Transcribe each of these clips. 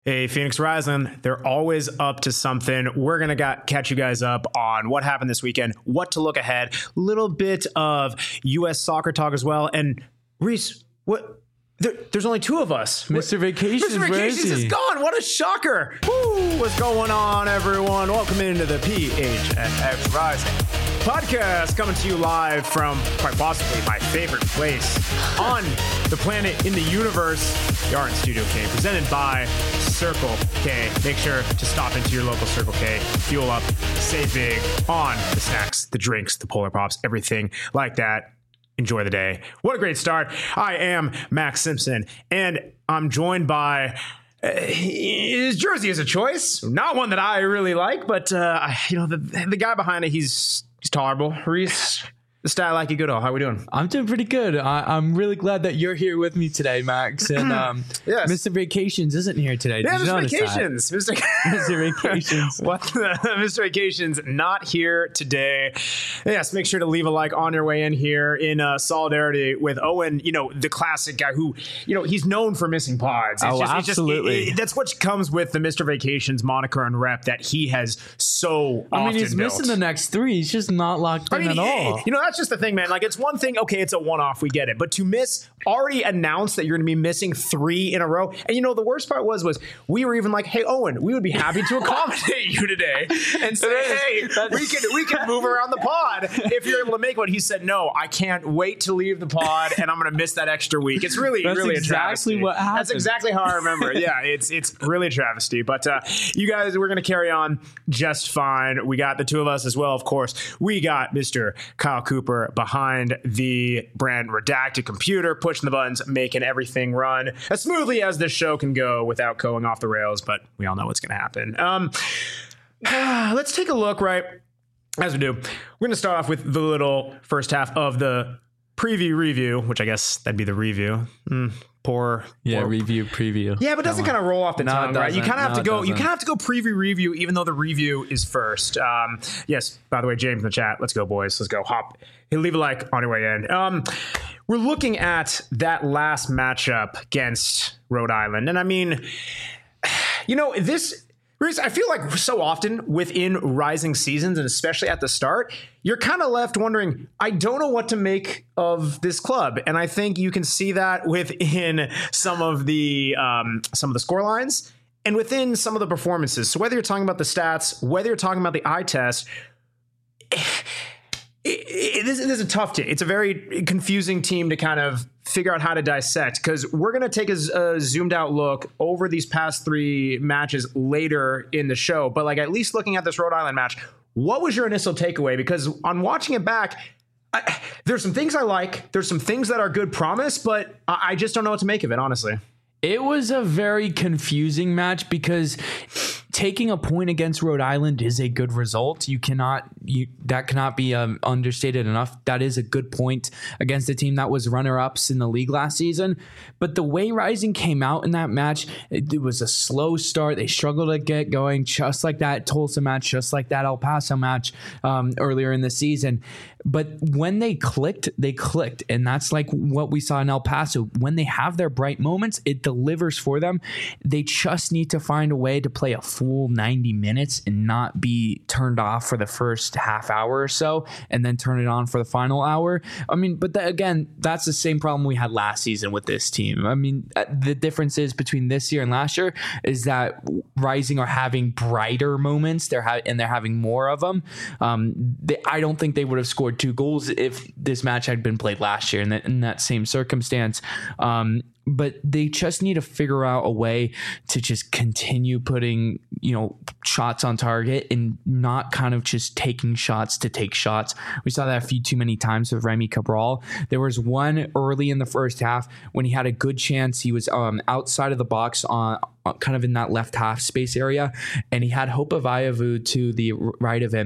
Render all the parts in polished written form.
Hey, Phoenix Rising, they're always up to something. We're going to catch you guys up on what happened this weekend, what to look ahead, a little bit of U.S. soccer talk as well. And Reese, what? There's only two of us. Mr. Vacations, Mr. Vacations is gone. What a shocker. Woo, what's going on, everyone? Welcome into the PHNX Rising podcast, coming to you live from quite possibly my favorite place on the planet, in the universe, the Art Studio K, presented by Circle K. Make sure to stop into your local Circle K, fuel up, save big on the snacks, the drinks, the Polar Pops, everything like that. Enjoy the day. What a great start. I am Max Simpson, and I'm joined by his jersey is a choice, not one that I really like, but the guy behind it, he's tolerable. Reese, the style like you good. How we doing? I'm doing pretty good. I'm really glad that you're here with me today, Max. And yes. Mr. Vacations isn't here today. Yeah, Mr. Vacations. Mr. Vacations. What? Mr. Vacations not here today. Yes, make sure to leave a like on your way in here in solidarity with Owen. You know, the classic guy who, he's known for missing pods. Absolutely. That's what comes with the Mr. Vacations moniker and rep that he has so often he's built. missing the next three. He's just not locked in at all. That's just the thing, man. Like, it's one thing, okay, it's a one-off, we get it. But to already announce that you're going to be missing 3 in a row. And the worst part was we were even like, hey, Owen, we would be happy to accommodate you today and say, hey, we can move around the pod if you're able to make one. He said, no, I can't wait to leave the pod and I'm going to miss that extra week. It's really a travesty. What happened. That's exactly how I remember it. Yeah, it's really a travesty. But you guys, we're going to carry on just fine. We got the two of us as well, of course. We got Mr. Kyle Cooper behind the brand Redacted computer, pushing the buttons, making everything run as smoothly as this show can go without going off the rails, but we all know what's going to happen. Let's take a look, right? As we do, we're going to start off with the little first half of the review, which I guess that'd be the review. Review, preview. Yeah, but it doesn't kind of roll off the tongue, right? You kind of have to go. You kind of have to go preview, review, even though the review is first. Yes. By the way, James in the chat. Let's go, boys. Let's go. Hop. Leave a like on your way in. We're looking at that last matchup against Rhode Island, and I mean, this. I feel like so often within rising seasons, and especially at the start, you're kind of left wondering, I don't know what to make of this club. And I think you can see that within some of the score lines and within some of the performances. So whether you're talking about the stats, whether you're talking about the eye test, this is a tough team. It's a very confusing team to kind of figure out how to dissect, because we're going to take a zoomed out look over these past 3 matches later in the show. But at least looking at this Rhode Island match, what was your initial takeaway? Because on watching it back, there's some things I like. There's some things that are good promise, but I just don't know what to make of it, honestly. It was a very confusing match because taking a point against Rhode Island is a good result. That cannot be understated enough. That is a good point against a team that was runner-ups in the league last season. But the way Rising came out in that match, it was a slow start. They struggled to get going, just like that Tulsa match, just like that El Paso match earlier in the season. But when they clicked. And that's like what we saw in El Paso. When they have their bright moments, it delivers for them. They just need to find a way to play a full 90 minutes and not be turned off for the first half hour or so and then turn it on for the final hour. I mean, but that's the same problem we had last season with this team. I mean, the differences between this year and last year is that Rising are having brighter moments. They're having more of them. I don't think they would have scored 2 goals if this match had been played last year in that same circumstance. But they just need to figure out a way to just continue putting, shots on target and not kind of just taking shots to take shots. We saw that a few too many times with Remy Cabral. There was one early in the first half when he had a good chance. He was outside of the box on kind of in that left half space area, and he had Hope Avayavu to the right of him.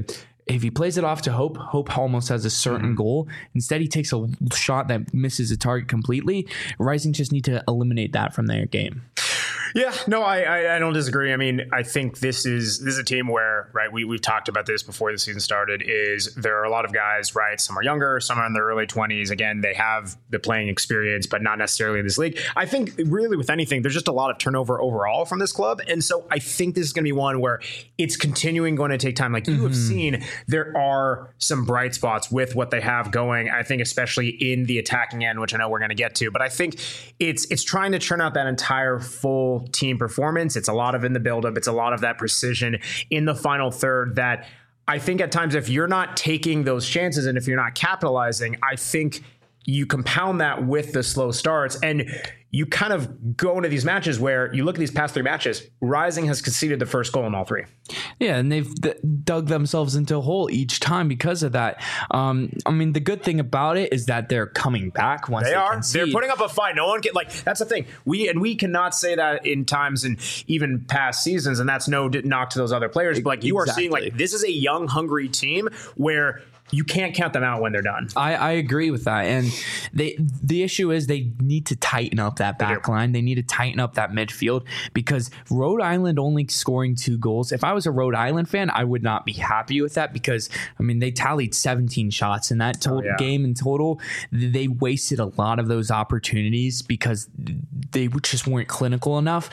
if he plays it off to Hope almost has a certain goal. Instead, he takes a shot that misses the target completely. Rising just need to eliminate that from their game. Yeah, no, I don't disagree. I mean, I think this is a team where, right, we've talked about this before the season started, is there are a lot of guys, right? Some are younger, some are in their early 20s. Again, they have the playing experience, but not necessarily in this league. I think really with anything, there's just a lot of turnover overall from this club. And so I think this is going to be one where it's continuing going to take time. Like you have seen, there are some bright spots with what they have going. I think especially in the attacking end, which I know we're going to get to, but I think it's trying to churn out that entire full team performance. It's a lot of in the buildup. It's a lot of that precision in the final third that I think at times, if you're not taking those chances and if you're not capitalizing, I think you compound that with the slow starts and you kind of go into these matches where you look at these past 3 matches, Rising has conceded the first goal in all 3. Yeah, and they've dug themselves into a hole each time because of that. I mean, the good thing about it is that they're coming back once they are. Concede. They're putting up a fight. No one can, like, that's the thing. We cannot say that in times and even past seasons, and that's no knock to those other players. But like you are seeing, like, this is a young, hungry team where you can't count them out when they're done. I agree with that. And the issue is they need to tighten up that back line. They need to tighten up that midfield because Rhode Island only scoring 2 goals. If I was a Rhode Island fan, I would not be happy with that because, I mean, they tallied 17 shots in that game in total. They wasted a lot of those opportunities because they just weren't clinical enough.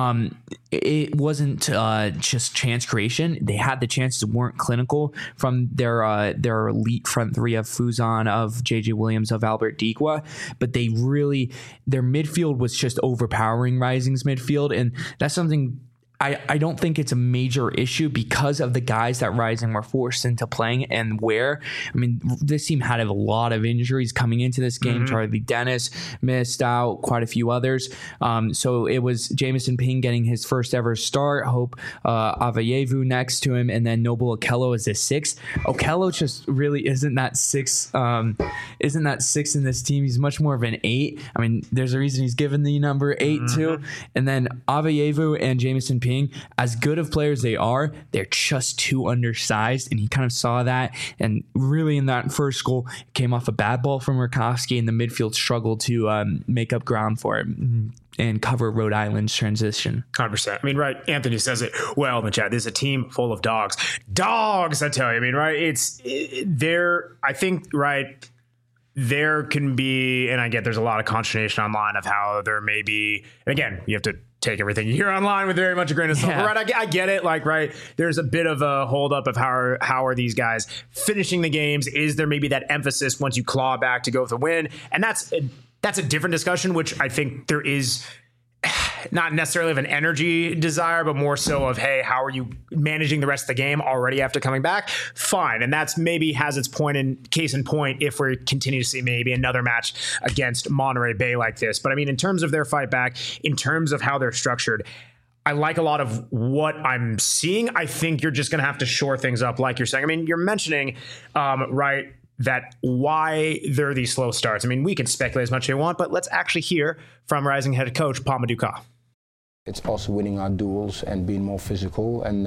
It wasn't just chance creation. They had the chances, weren't clinical from their elite front 3 of Fuzan, of JJ Williams, of Albert Dikwa, but their midfield was just overpowering Rising's midfield, and that's something I don't think it's a major issue because of the guys that Rising were forced into playing and where. I mean, this team had a lot of injuries coming into this game. Charlie Dennis missed out, quite a few others. So it was Jamison Ping getting his first ever start, Hope Avayevu next to him, and then Noble Okello as a 6th. Okello just really isn't that 6 in this team. He's much more of an 8. I mean, there's a reason he's given the number 8 too. And then Avayevu and Jamison Ping, as good of players they are, they're just too undersized, and he kind of saw that. And really, in that first goal, it came off a bad ball from Rakowski, and the midfield struggled to make up ground for it and cover Rhode Island's transition. 100%. I mean, right, Anthony says it well in the chat. This is a team full of dogs. Dogs, I tell you. I mean, right, I think, right, there can be, and I get there's a lot of consternation online of how there may be, and again, you have to take everything you hear online with very much a grain of salt. Yeah. Right, I get it. Like, right, there's a bit of a holdup of how are these guys finishing the games? Is there maybe that emphasis once you claw back to go with a win? And that's a different discussion, which I think there is not necessarily of an energy desire, but more so of, hey, how are you managing the rest of the game already after coming back? Fine. And that's maybe has its case in point if we continue to see maybe another match against Monterey Bay like this. But I mean, in terms of their fight back, in terms of how they're structured, I like a lot of what I'm seeing. I think you're just going to have to shore things up, like you're saying. I mean, you're mentioning, right, that why there are these slow starts. I mean, we can speculate as much as we want, but let's actually hear from Rising head coach Paul Maduka. It's also winning our duels and being more physical and,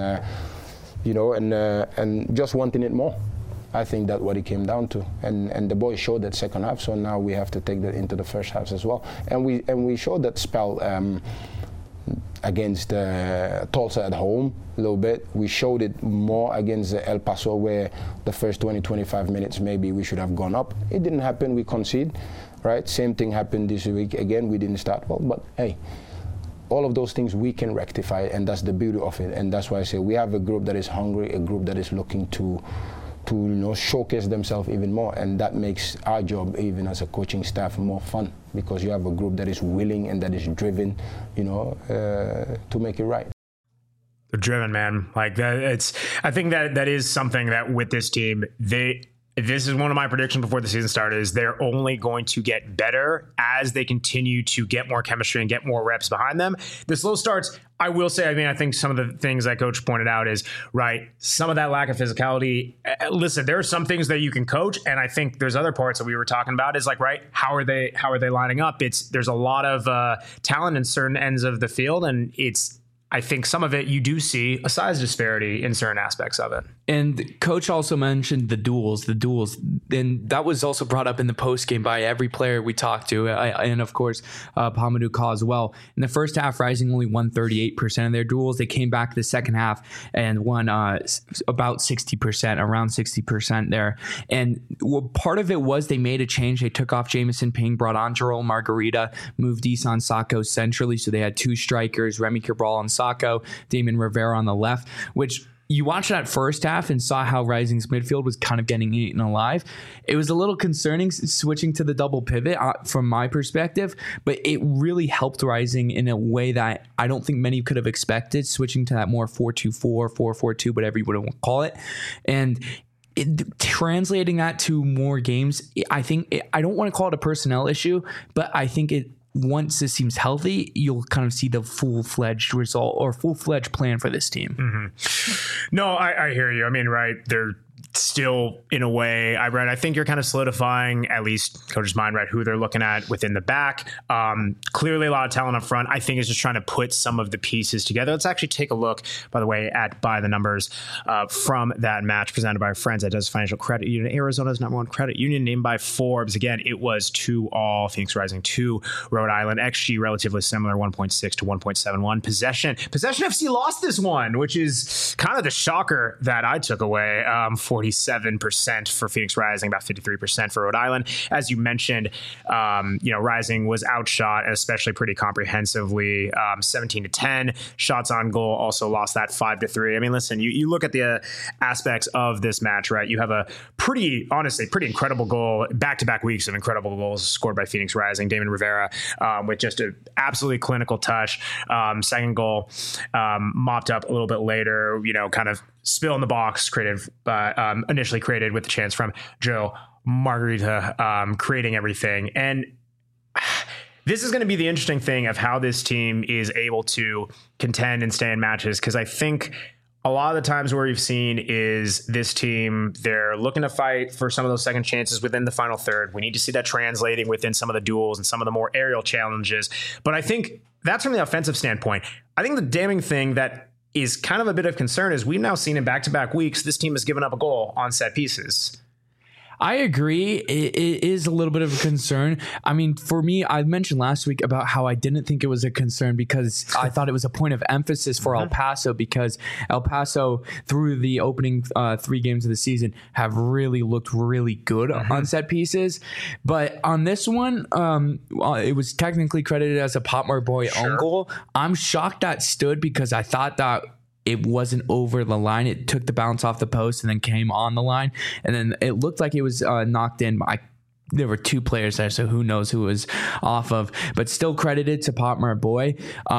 and just wanting it more. I think that's what it came down to. And the boys showed that second half, so now we have to take that into the first half as well. And we showed that spell against Tulsa at home a little bit. We showed it more against El Paso, where the first 20-25 minutes maybe we should have gone up. It didn't happen, we conceded, right? Same thing happened this week. Again, we didn't start well, but hey, all of those things we can rectify, and that's the beauty of it. And that's why I say we have a group that is hungry, a group that is looking to showcase themselves even more, and that makes our job, even as a coaching staff, more fun, because you have a group that is willing and that is driven, to make it right. They're driven, man. Like that. I think that is something that with this team, this is one of my predictions before the season started, is they're only going to get better as they continue to get more chemistry and get more reps behind them. The slow starts, I will say, I mean, I think some of the things that coach pointed out is, right, some of that lack of physicality. Listen, there are some things that you can coach, and I think there's other parts that we were talking about is like, right, how are they lining up? There's a lot of talent in certain ends of the field, and I think some of it you do see a size disparity in certain aspects of it. And coach also mentioned the duels, and that was also brought up in the post game by every player we talked to, and of course Pamadou Ka as well. In the first half, Rising only won 38% of their duels. They came back the second half and won about 60%, around 60% there. And part of it was they made a change. They took off Jamison Ping, brought on Joel Margarita, moved Isan Sako centrally, so they had two strikers, Remy Cabral on Sako, Damon Rivera on the left, which you watched that first half and saw how Rising's midfield was kind of getting eaten alive. It was a little concerning switching to the double pivot from my perspective, but it really helped Rising in a way that I don't think many could have expected, switching to that more 4-2-4, 4-4-2, whatever you would call it. And translating that to more games, I think I don't want to call it a personnel issue, but I think once this seems healthy, you'll kind of see the full-fledged result or full-fledged plan for this team. Mm-hmm. No, I hear you. I mean, right, they're still in a way, I think you're kind of solidifying, at least coach's mind, right, who they're looking at within the back. Clearly a lot of talent up front. I think is just trying to put some of the pieces together. Let's actually take a look, by the way, at By the Numbers from that match presented by our friends at Desert Financial Credit Union, Arizona's #1 credit union, named by Forbes. Again, it was 2-all, Phoenix Rising 2, Rhode Island. XG relatively similar, 1.6 to 1.71. Possession FC lost this one, which is kind of the shocker that I took away. 47% for Phoenix Rising, about 53% for Rhode Island. As you mentioned, Rising was outshot, especially pretty comprehensively, 17-10. Shots on goal also lost that 5-3. I mean, listen, you look at the aspects of this match, right? You have a pretty incredible goal, back-to-back weeks of incredible goals scored by Phoenix Rising. Damon Rivera with just an absolutely clinical touch. Second goal mopped up a little bit later, kind of spill in the box initially created with the chance from Joe Margarita, creating everything. And this is going to be the interesting thing of how this team is able to contend and stay in matches, because I think a lot of the times where we've seen is this team, they're looking to fight for some of those second chances within the final third. We need to see that translating within some of the duels and some of the more aerial challenges. But I think that's from the offensive standpoint. I think the damning thing that is kind of a bit of concern is we've now seen in back-to-back weeks, this team has given up a goal on set pieces. I agree. It is a little bit of a concern. I mean, for me, I mentioned last week about how I didn't think it was a concern because I thought it was a point of emphasis for El Paso, because El Paso, through the opening 3 games of the season, have really looked really good on set pieces. But on this one, it was technically credited as a Potmar Boy own goal. I'm shocked that stood because I thought that it wasn't over the line. It took the bounce off the post and then came on the line. And then it looked like it was knocked in. There were 2 players there, so who knows who it was off of. But still credited to Potmar Boy.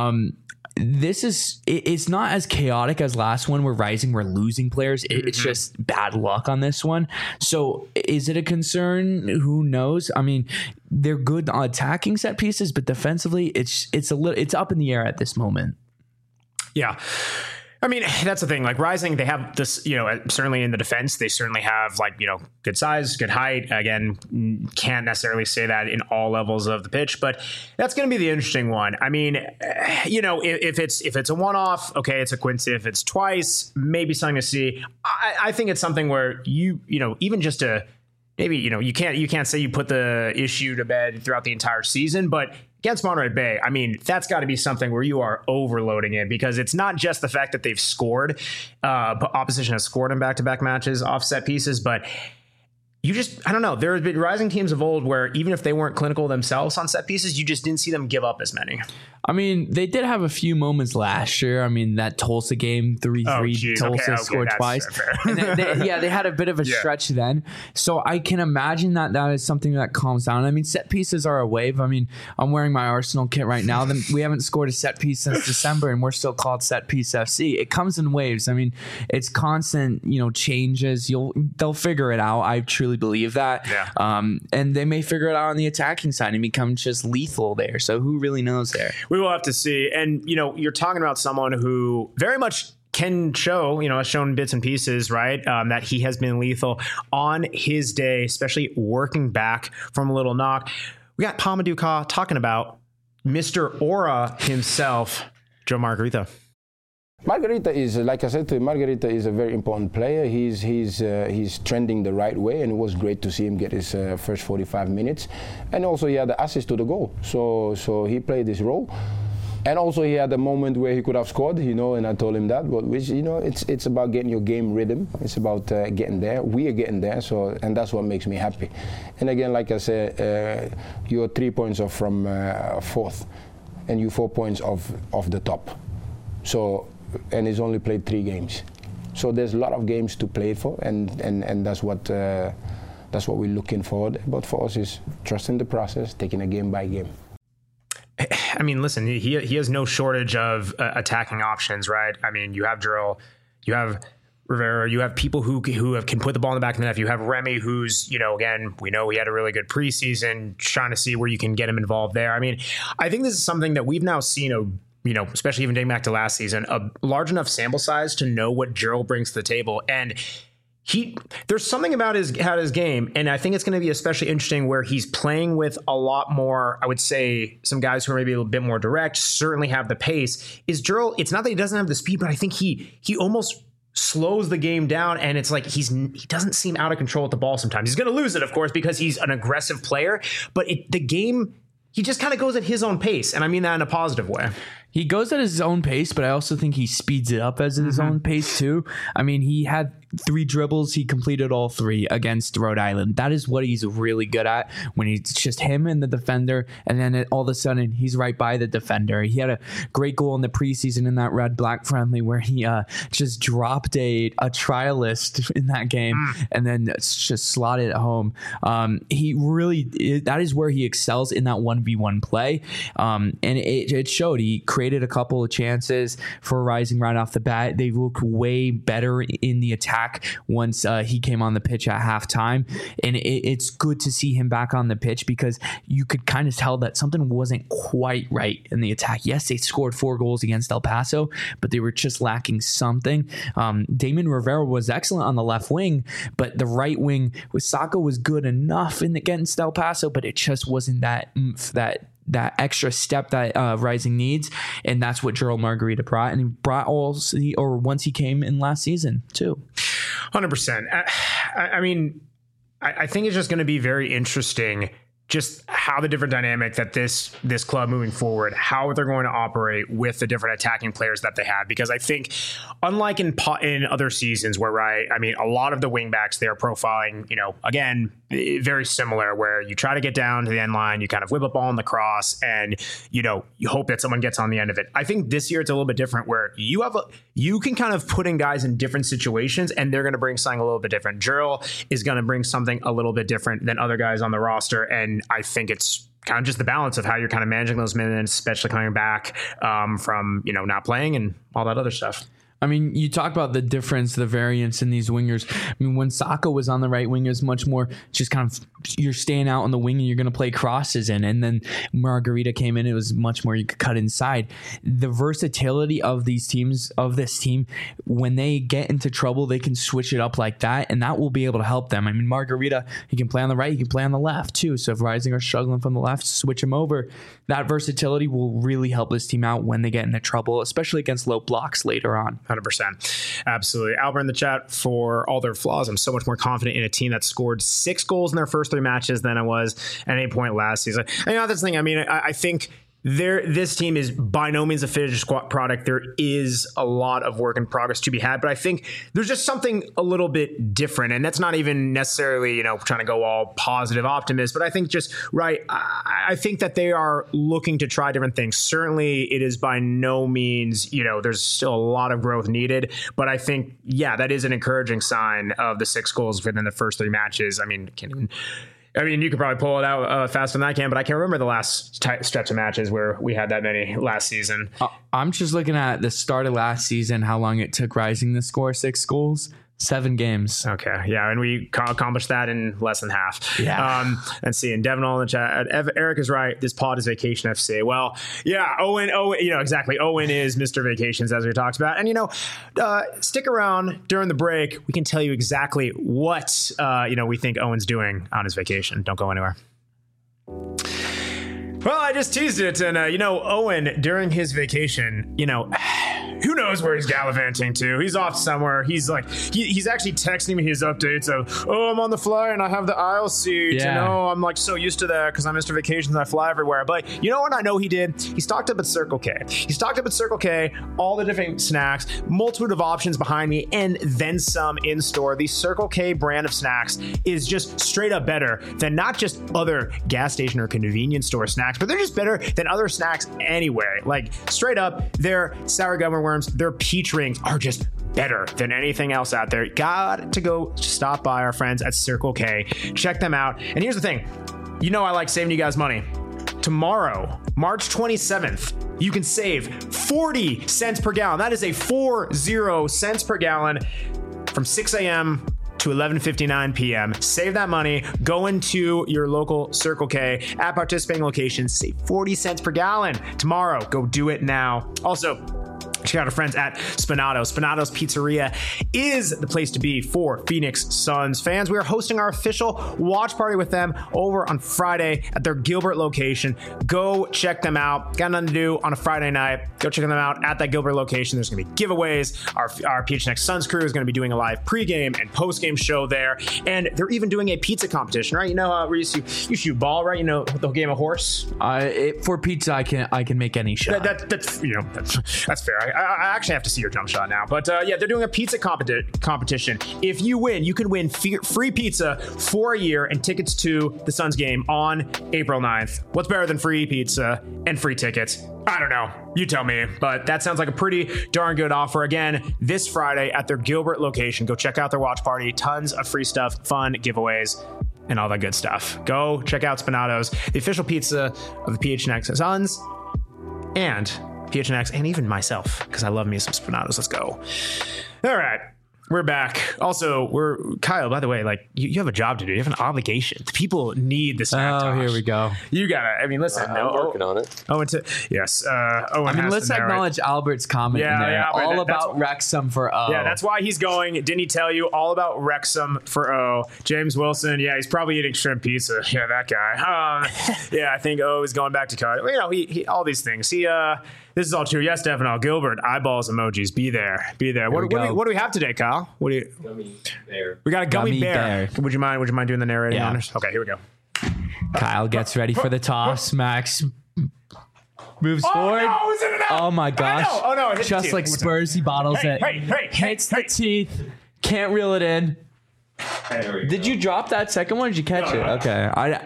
It's not as chaotic as last one where Rising were losing players. It's just bad luck on this one. So is it a concern? Who knows? I mean, they're good on attacking set pieces, but defensively, it's up in the air at this moment. Yeah. I mean, that's the thing. Like Rising, they have this, certainly in the defense, they certainly have good size, good height. Again, can't necessarily say that in all levels of the pitch, but that's going to be the interesting one. I mean, if it's a one-off, okay, it's a coincidence. If it's twice, maybe something to see. I think it's something where even just to maybe, you can't say you put the issue to bed throughout the entire season, but against Monterey Bay, I mean, that's got to be something where you are overloading it, because it's not just the fact that they've scored, opposition has scored in back-to-back matches off set pieces, but I don't know. There have been Rising teams of old where even if they weren't clinical themselves on set pieces, you just didn't see them give up as many. I mean, they did have a few moments last year. I mean, that Tulsa game, 3-3, Tulsa scored twice. And they had a bit of a stretch then. So I can imagine that is something that calms down. I mean, set pieces are a wave. I mean, I'm wearing my Arsenal kit right now. We haven't scored a set piece since December, and we're still called Set Piece FC. It comes in waves. I mean, it's constant, changes. They'll figure it out. I truly believe that. Yeah. And they may figure it out on the attacking side and become just lethal there. So who really knows there? We will have to see. And, you're talking about someone who very much can show, has shown bits and pieces, right? That he has been lethal on his day, especially working back from a little knock. We got Pamadou Ka talking about Mr. Aura himself, Joe Margarita. Margarita is, like I said to you, Margarita is a very important player. He's trending the right way, and it was great to see him get his first 45 minutes. And also he had the assist to the goal, so he played his role. And also he had a moment where he could have scored, and I told him that. But it's about getting your game rhythm. It's about getting there. We are getting there, and that's what makes me happy. And again, like I said, you're 3 points off from fourth, and you're 4 points off the top. So. And he's only played 3 games, so there's a lot of games to play for, and that's what we're looking for. But for us, is trusting the process, taking it game by game. I mean, listen, he has no shortage of attacking options, right? I mean, you have Drill, you have Rivera, you have people who can put the ball in the back of the net. You have Remy, who's, again, we know he had a really good preseason, trying to see where you can get him involved there. I mean, I think this is something that we've now seen especially even dating back to last season, a large enough sample size to know what Gerald brings to the table. And there's something about his game, and I think it's going to be especially interesting where he's playing with a lot more, I would say, some guys who are maybe a little bit more direct, certainly have the pace. Is Gerald, it's not that he doesn't have the speed, but I think he almost slows the game down, and it's like he doesn't seem out of control with the ball sometimes. He's going to lose it, of course, because he's an aggressive player, but the game, he just kind of goes at his own pace, and I mean that in a positive way. He goes at his own pace, but I also think he speeds it up at his own pace too. I mean, he had 3 dribbles. He completed all 3 against Rhode Island. That is what he's really good at, when it's just him and the defender, and then all of a sudden he's right by the defender. He had a great goal in the preseason in that red-black friendly where he just dropped a trialist in that game and then just slotted it home. He really, that is where he excels in that 1v1 play, and it showed. He created a couple of chances for Rising right off the bat. They look way better in the attack once he came on the pitch at halftime, and it's good to see him back on the pitch, because you could kind of tell that something wasn't quite right in the attack. Yes, they scored 4 goals against El Paso, but they were just lacking something. Damon Rivera was excellent on the left wing, but the right wing with Saka was good enough against El Paso, but it just wasn't that that extra step that Rising needs, and that's what Gerald Margarita brought, and he brought once he came in last season too. 100%. I mean, I think it's just going to be very interesting just how the different dynamic that this club moving forward, how they're going to operate with the different attacking players that they have. Because I think, unlike in other seasons where, I mean, a lot of the wingbacks, they're profiling, again, very similar, where you try to get down to the end line, you kind of whip a ball on the cross, and, you hope that someone gets on the end of it. I think this year it's a little bit different, where you can kind of put in guys in different situations, and they're going to bring something a little bit different. Jurl is going to bring something a little bit different than other guys on the roster, and I think it's kind of just the balance of how you're kind of managing those minutes, especially coming back from, not playing and all that other stuff. I mean, you talk about the difference, the variance in these wingers. I mean, when Saka was on the right wing, it was much more just kind of you're staying out on the wing and you're going to play crosses in. And then Margarita came in, it was much more you could cut inside. The versatility of these teams, of this team, when they get into trouble, they can switch it up like that, and that will be able to help them. I mean, Margarita, he can play on the right, he can play on the left too. So if Rising are struggling from the left, switch him over. That versatility will really help this team out when they get into trouble, especially against low blocks later on. 100%. Absolutely. Albert in the chat, for all their flaws, I'm so much more confident in a team that scored 6 goals in their first 3 matches than I was at any point last season. And that's the thing. I mean, I think this team is by no means a finished product. There is a lot of work in progress to be had, but I think there's just something a little bit different, and that's not even necessarily, trying to go all positive optimist, but I think just I think that they are looking to try different things. Certainly it is by no means, there's still a lot of growth needed, but I think, that is an encouraging sign of the 6 goals within the first 3 matches. I mean, you could probably pull it out faster than I can, but I can't remember the last stretch of matches where we had that many last season. I'm just looking at the start of last season, how long it took Rising to score 6 goals. 7 games. Okay. Yeah. And we accomplished that in less than half. Yeah. Let's see. And Devin all in the chat. Eric is right. This pod is Vacation FC. Well, yeah. Owen, exactly. Owen is Mr. Vacations, as we talked about. And, stick around during the break. We can tell you exactly what, we think Owen's doing on his vacation. Don't go anywhere. Well, I just teased it. And, Owen, during his vacation, who knows knows where he's gallivanting to. He's off somewhere. He's like, he's actually texting me his updates of, oh, I'm on the fly and I have the aisle seat. Yeah. And oh, I'm like so used to that because I'm Mr. Vacations. I fly everywhere. But you know what I know he did? He stocked up at Circle K. He stocked up at Circle K, all the different snacks, multitude of options behind me, and then some in store. The Circle K brand of snacks is just straight up better than not just other gas station or convenience store snacks, but they're just better than other snacks anyway. Like straight up, their sour gummy worms, their peach rings are just better than anything else out there. Got to go stop by our friends at Circle K. Check them out. And here's the thing. You know I like saving you guys money. Tomorrow, March 27th, you can save 40 cents per gallon. That is a 40 cents per gallon from 6 a.m. to 11:59 p.m. Save that money. Go into your local Circle K at participating locations. Save 40 cents per gallon tomorrow. Go do it now. Also, check out our friends at Spinato. Spinato's Pizzeria is the place to be for Phoenix Suns fans. We are hosting our official watch party with them over on Friday at their Gilbert location. Go check them out. Got nothing to do on a Friday night. Go check them out at that Gilbert location. There's going to be giveaways. Our PHNX Suns crew is going to be doing a live pregame and postgame show there. And they're even doing a pizza competition, right? You know how you shoot ball, right? You know the game of horse? For pizza, I can make any shot. That's fair. I actually have to see your jump shot now. But yeah, they're doing a pizza competition. If you win, you can win free pizza for a year and tickets to the Suns game on April 9th. What's better than free pizza and free tickets? I don't know. You tell me. But that sounds like a pretty darn good offer. Again, this Friday at their Gilbert location. Go check out their watch party. Tons of free stuff, fun giveaways, and all that good stuff. Go check out Spinato's, the official pizza of the PHNX Suns, and PHNX, and even myself, because I love me some Spinatos. Let's go. All right. We're back. Also, Kyle, by the way, like you have a job to do. You have an obligation. People need the snack. Oh, here we go. You gotta. I mean, listen. I'm working on it. Yes. Owen let's acknowledge Albert's comment in there. Yeah, all about Wrexham for O. Yeah, that's why he's going. Didn't he tell you all about Wrexham for O? James Wilson. Yeah, he's probably eating shrimp pizza. Yeah, that guy. Yeah, I think O is going back to college. You know, he all these things. This is all true. Yes, Stefano. Gilbert, eyeballs emojis. Be there. What do we have today, Kyle? Gummy bear. We got a gummy bear. bear. Would you mind doing the narrating Yeah. honors? Okay, here we go. Kyle gets ready for the toss. Max moves forward. No, is it an out? Oh my gosh. Oh no, it hit the Just teeth. like Spurs, he bottles it. Hits the teeth. Can't reel it in. Did you drop that second one or did you catch it? No. Okay.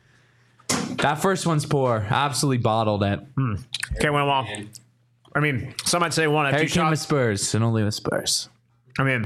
That first one's poor. Absolutely bottled it. Okay, went well. I mean, some might say one. Here Two came with shots. Spurs and only with Spurs. I mean,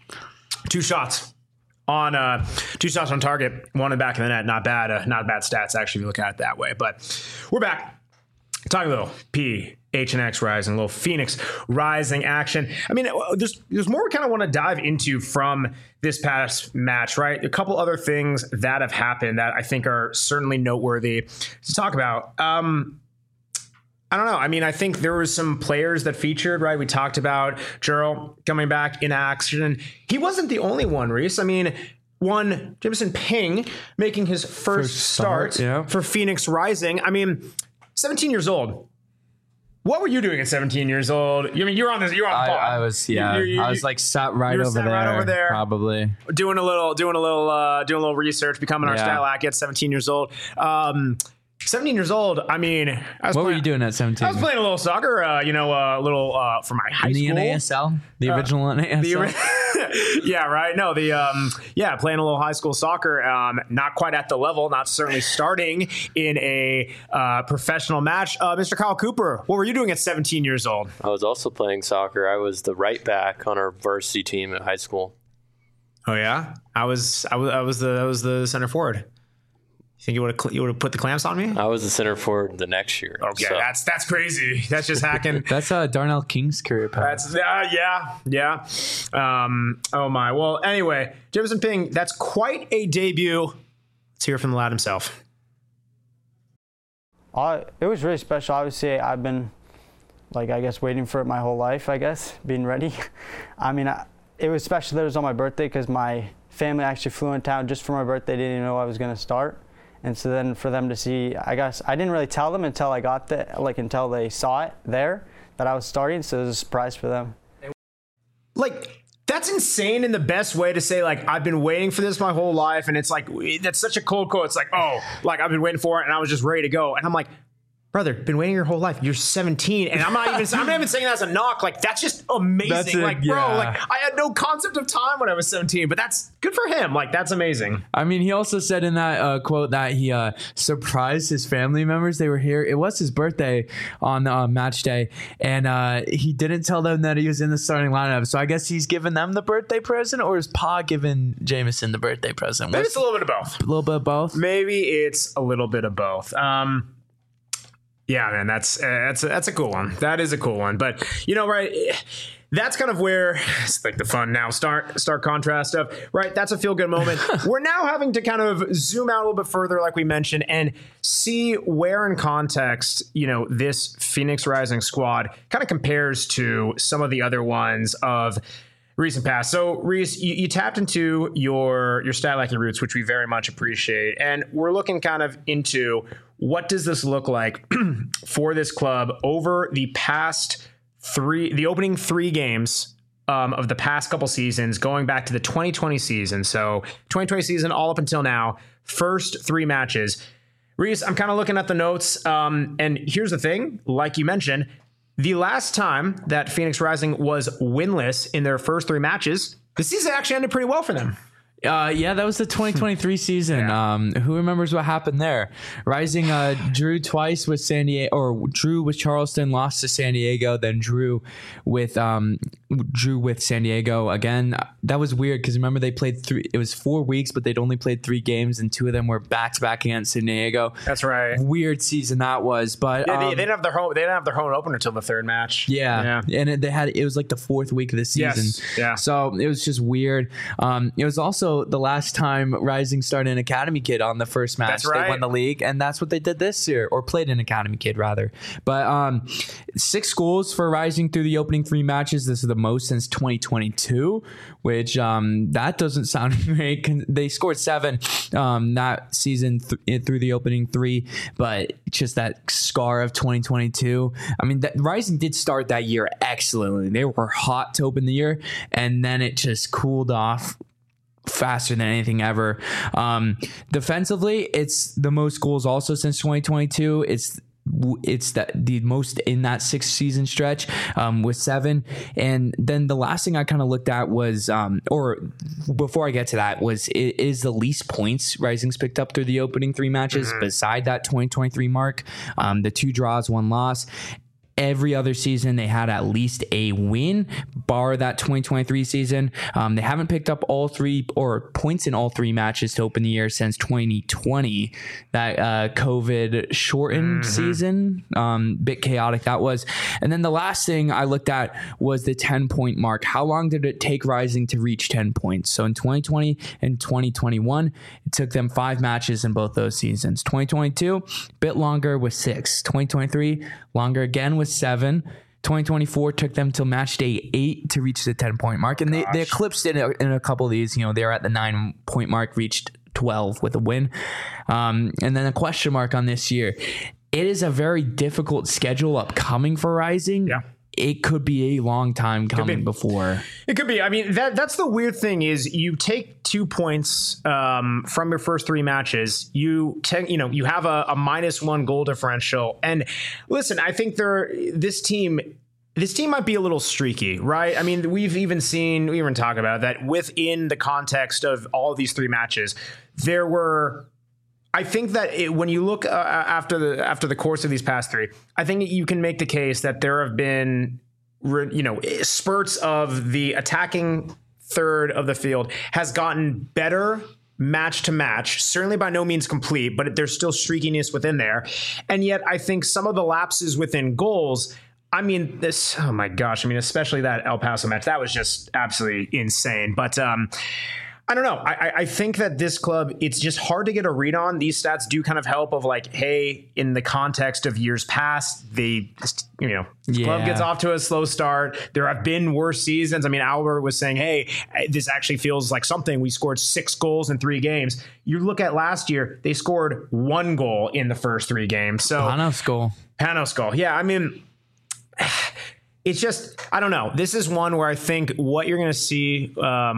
two shots on target, one in the back of the net. Not bad stats actually if you look at it that way. But we're back. Talking a little PHNX Rising, a little Phoenix Rising action. I mean, there's more we kind of want to dive into from this past match, right? A couple other things that have happened that I think are certainly noteworthy to talk about. I don't know. I mean, I think there were some players that featured, right? We talked about Jurl coming back in action. He wasn't the only one, Reese. I mean, Jamison Ping making his first start for Phoenix Rising. I mean, 17 years old. What were you doing at 17 years old? I mean, you're on the pod. I was like sat right over there, probably doing a little research, becoming our style act at 17 years old. 17 years old. I mean, what were you doing at 17? I was playing a little soccer, a little for my high school. The NASL? The original NASL? Yeah, right. No, playing a little high school soccer. Not quite at the level, not certainly starting in a professional match. Mr. Kyle Cooper, what were you doing at 17 years old? I was also playing soccer. I was the right back on our varsity team at high school. Oh yeah, I was the center forward. You think you would have put the clamps on me? I was the center forward the next year. Okay, so. That's crazy. That's just hacking. That's Darnell King's career path. That's yeah. Oh my. Well, anyway, Jamison Ping. That's quite a debut. Let's hear from the lad himself. It was really special. Obviously, I've been, waiting for it my whole life. Being ready. I mean, it was special that it was on my birthday because my family actually flew in town just for my birthday. They didn't even know I was going to start. And so then for them to see, I didn't really tell them until I got there, until they saw it there. that I was starting, so it was a surprise for them. Like, that's insane in the best way to say, like, I've been waiting for this my whole life. And it's like, that's such a cold quote. It's like, oh, like, I've been waiting for it and I was just ready to go. And I'm like, brother, been waiting your whole life. You're 17. And I'm not even saying that as a knock. Like, that's just amazing. Bro, like, I had no concept of time when I was 17, but that's good for him. Like, that's amazing. I mean, he also said in that quote that he surprised his family members. They were here. It was his birthday on match day, and he didn't tell them that he was in the starting lineup. So I guess he's giving them the birthday present, or is Pa giving Jameson the birthday present? Maybe it's a little bit of both. A little bit of both? Maybe it's a little bit of both. Yeah, man, that's a cool one. That is a cool one. But, you know, right, that's kind of where it's like the fun now stark contrast stuff, right? That's a feel good moment. We're now having to kind of zoom out a little bit further, like we mentioned, and see where in context, you know, this Phoenix Rising squad kind of compares to some of the other ones of recent past. So, Reese, you tapped into your stat like your roots, which we very much appreciate. And we're looking kind of into what does this look like for this club over the opening three games of the past couple seasons, going back to the 2020 season. So 2020 season all up until now, first three matches. Reese, I'm kind of looking at the notes. And here's the thing, like you mentioned, the last time that Phoenix Rising was winless in their first three matches, the season actually ended pretty well for them. Yeah, that was the 2023 season. Yeah. Who remembers what happened there? Rising drew twice with San Diego, or drew with Charleston, lost to San Diego, then drew with San Diego again. That was weird because remember they played it was 4 weeks, but they'd only played 3 games, and 2 of them were back to back against San Diego. That's right. Weird season that was, but yeah, they didn't have their home. They didn't have their home opener until the third match. Yeah. And it was like the 4th week of the season. Yes. Yeah. So it was just weird. It was also the last time Rising started an Academy Kid on the first match. That's right. They won the league, and that's what they did this year, or played an Academy Kid rather. But 6 goals for Rising through the opening 3 matches. This is the most since 2022, which that doesn't sound great. They scored 7 that season through the opening 3, but just that scar of 2022. I mean, Rising did start that year excellently. They were hot to open the year, and then it just cooled off faster than anything ever. Defensively, it's the most goals also since 2022. It's the most in that 6 season stretch with 7. And then the last thing I kind of looked at was or before I get to that was it is the least points Rising's picked up through the opening 3 matches beside that 2023 mark. The 2 draws, 1 loss. Every other season, they had at least a win, bar that 2023 season. They haven't picked up all 3 or points in all 3 matches to open the year since 2020. That COVID shortened season, bit chaotic that was. And then the last thing I looked at was the 10-point mark. How long did it take Rising to reach 10 points? So in 2020 and 2021, it took them 5 matches in both those seasons. 2022, bit longer with 6. 2023, longer again with 7. 2024 took them till match day 8 to reach the 10-point mark, and they eclipsed it in a couple of these. You know, they're at the 9-point mark, reached 12 with a win, and then a question mark on this year. It is a very difficult schedule upcoming for Rising. Yeah. It could be a long time coming before. It could be. I mean, that's the weird thing is you take 2 points from your first 3 matches. You have a -1 goal differential. And listen, I think this team might be a little streaky, right? I mean, we even talk about that within the context of all of these 3 matches, there were. I think that when you look after the course of these past 3, I think you can make the case that there have been, spurts of the attacking third of the field has gotten better match to match. Certainly by no means complete, but there's still streakiness within there. And yet I think some of the lapses within goals, I mean, oh my gosh, I mean, especially that El Paso match, that was just absolutely insane. But I don't know. I think that this club, it's just hard to get a read on. These stats do kind of help of like, hey, in the context of years past, this club gets off to a slow start. There have been worse seasons. I mean, Albert was saying, hey, this actually feels like something. We scored 6 goals in 3 games. You look at last year, they scored 1 goal in the first 3 games. So Panos goal. Yeah, I mean, it's just, I don't know. This is one where I think what you're going to see,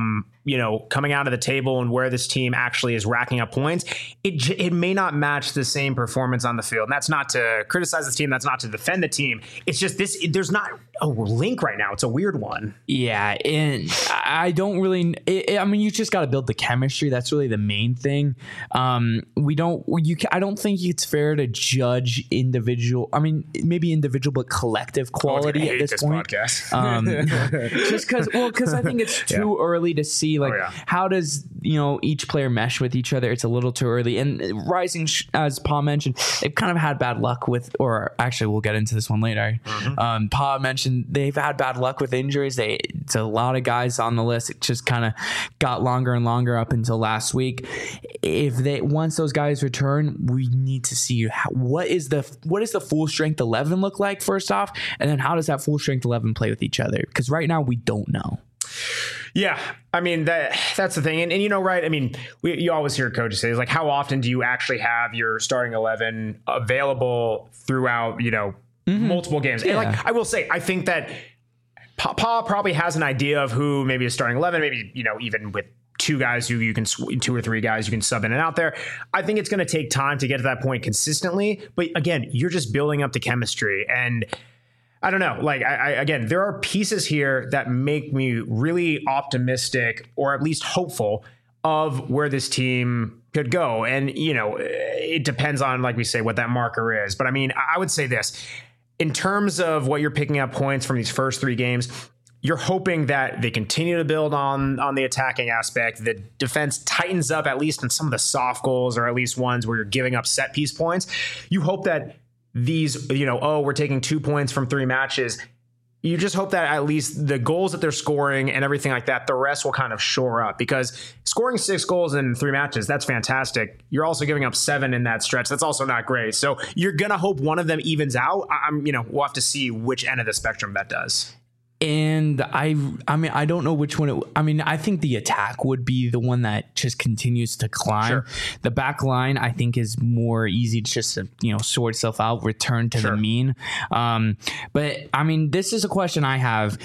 coming out of the table and where this team actually is racking up points, it may not match the same performance on the field. And that's not to criticize the team. That's not to defend the team. It's just there's not a link right now. It's a weird one. Yeah. And I don't really, you just got to build the chemistry. That's really the main thing. I don't think it's fair to judge individual, maybe individual, but collective quality at this point. Podcast. Just because I think it's too early to see how does each player mesh with each other. It's a little too early. And Rising, as Paul mentioned, they've kind of had bad luck with, or actually we'll get into this one later. Paul mentioned they've had bad luck with injuries. It's a lot of guys on the list. It just kind of got longer and longer up until last week. Once those guys return, we need to see what is the full strength 11 look like first off, and then how does that full strength 11 play with each other? Because right now we don't know. Yeah, that's the thing. And right, you always hear coaches say, like, how often do you actually have your starting 11 available throughout, multiple games? Yeah. And I will say, I think that Pa probably has an idea of who maybe is starting 11, maybe, even with two guys who you can, 2 or 3 guys you can sub in and out there. I think it's going to take time to get to that point consistently. But again, you're just building up the chemistry. And I don't know, again, there are pieces here that make me really optimistic, or at least hopeful, of where this team could go. And, it depends on, like we say, what that marker is. But I would say this, in terms of what you're picking up points from these first 3 games, you're hoping that they continue to build on the attacking aspect. The defense tightens up, at least in some of the soft goals, or at least ones where you're giving up set piece points. You hope that these, we're taking 2 points from 3 matches. You just hope that at least the goals that they're scoring and everything like that, the rest will kind of shore up, because scoring 6 goals in 3 matches, that's fantastic. You're also giving up 7 in that stretch. That's also not great. So you're going to hope one of them evens out. We'll have to see which end of the spectrum that does. And I don't know which one. I think the attack would be the one that just continues to climb. Sure. The back line, I think, is more easy to just sort itself out, return to the mean. But this is a question I have.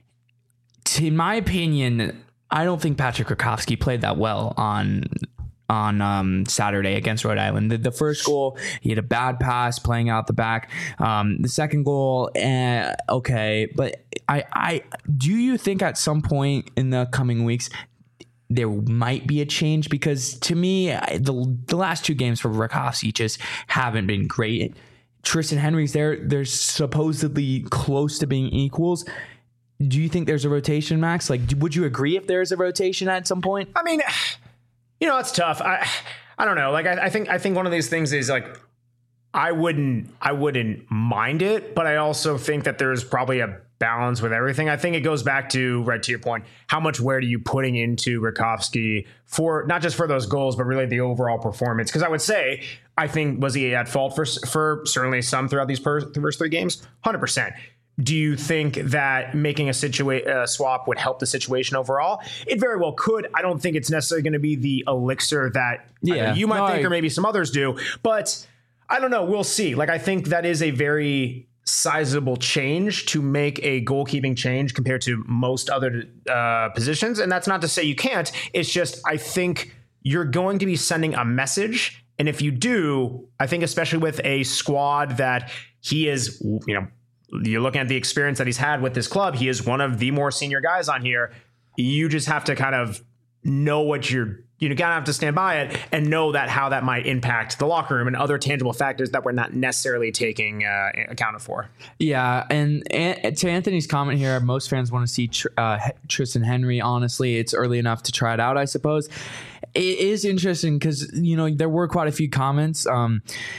In my opinion, I don't think Patrick Rakowski played that well on Saturday against Rhode Island. The first goal, he had a bad pass playing out the back. The second goal, okay, but I do you think at some point in the coming weeks there might be a change? Because to me, the last 2 games for Rakowski just haven't been great. Tristan Henry's they're supposedly close to being equals. Do you think there's a rotation, Max? Would you agree if there's a rotation at some point? It's tough. I don't know. I think one of these things is I wouldn't mind it, but I also think that there's probably a balance with everything. I think it goes back to, right to your point, how much weight are you putting into Rakowski for not just for those goals, but really the overall performance? Because I would say, I think, was he at fault for certainly some throughout these first 3 games? 100%. Do you think that making a swap would help the situation overall? It very well could. I don't think it's necessarily going to be the elixir that you might think, or maybe some others do. But I don't know. We'll see. I think that is a very sizable change to make a goalkeeping change compared to most other positions. And that's not to say you can't. It's just, I think you're going to be sending a message. And if you do, I think especially with a squad that he is, you're looking at the experience that he's had with this club, he is one of the more senior guys on here. You just have to kind of know what you kind of have to stand by it and know that how that might impact the locker room and other tangible factors that we're not necessarily taking accounted for. Yeah. And to Anthony's comment here, most fans want to see Tristan Henry. Honestly, it's early enough to try it out, I suppose. It is interesting because, there were quite a few comments. Through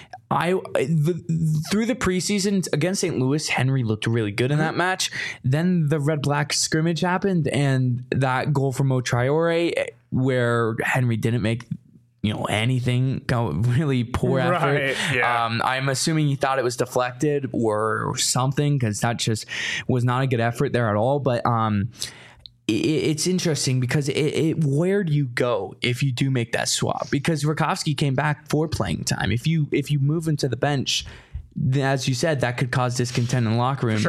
the preseason against St. Louis, Henry looked really good in that match. Then the red-black scrimmage happened, and that goal from Mo Traore, where Henry didn't make anything, really poor effort. Yeah. I'm assuming he thought it was deflected or something, because that just was not a good effort there at all. But it's interesting because where do you go if you do make that swap? Because Rakowski came back for playing time. If you move him to the bench, as you said, that could cause discontent in the locker room. Sure.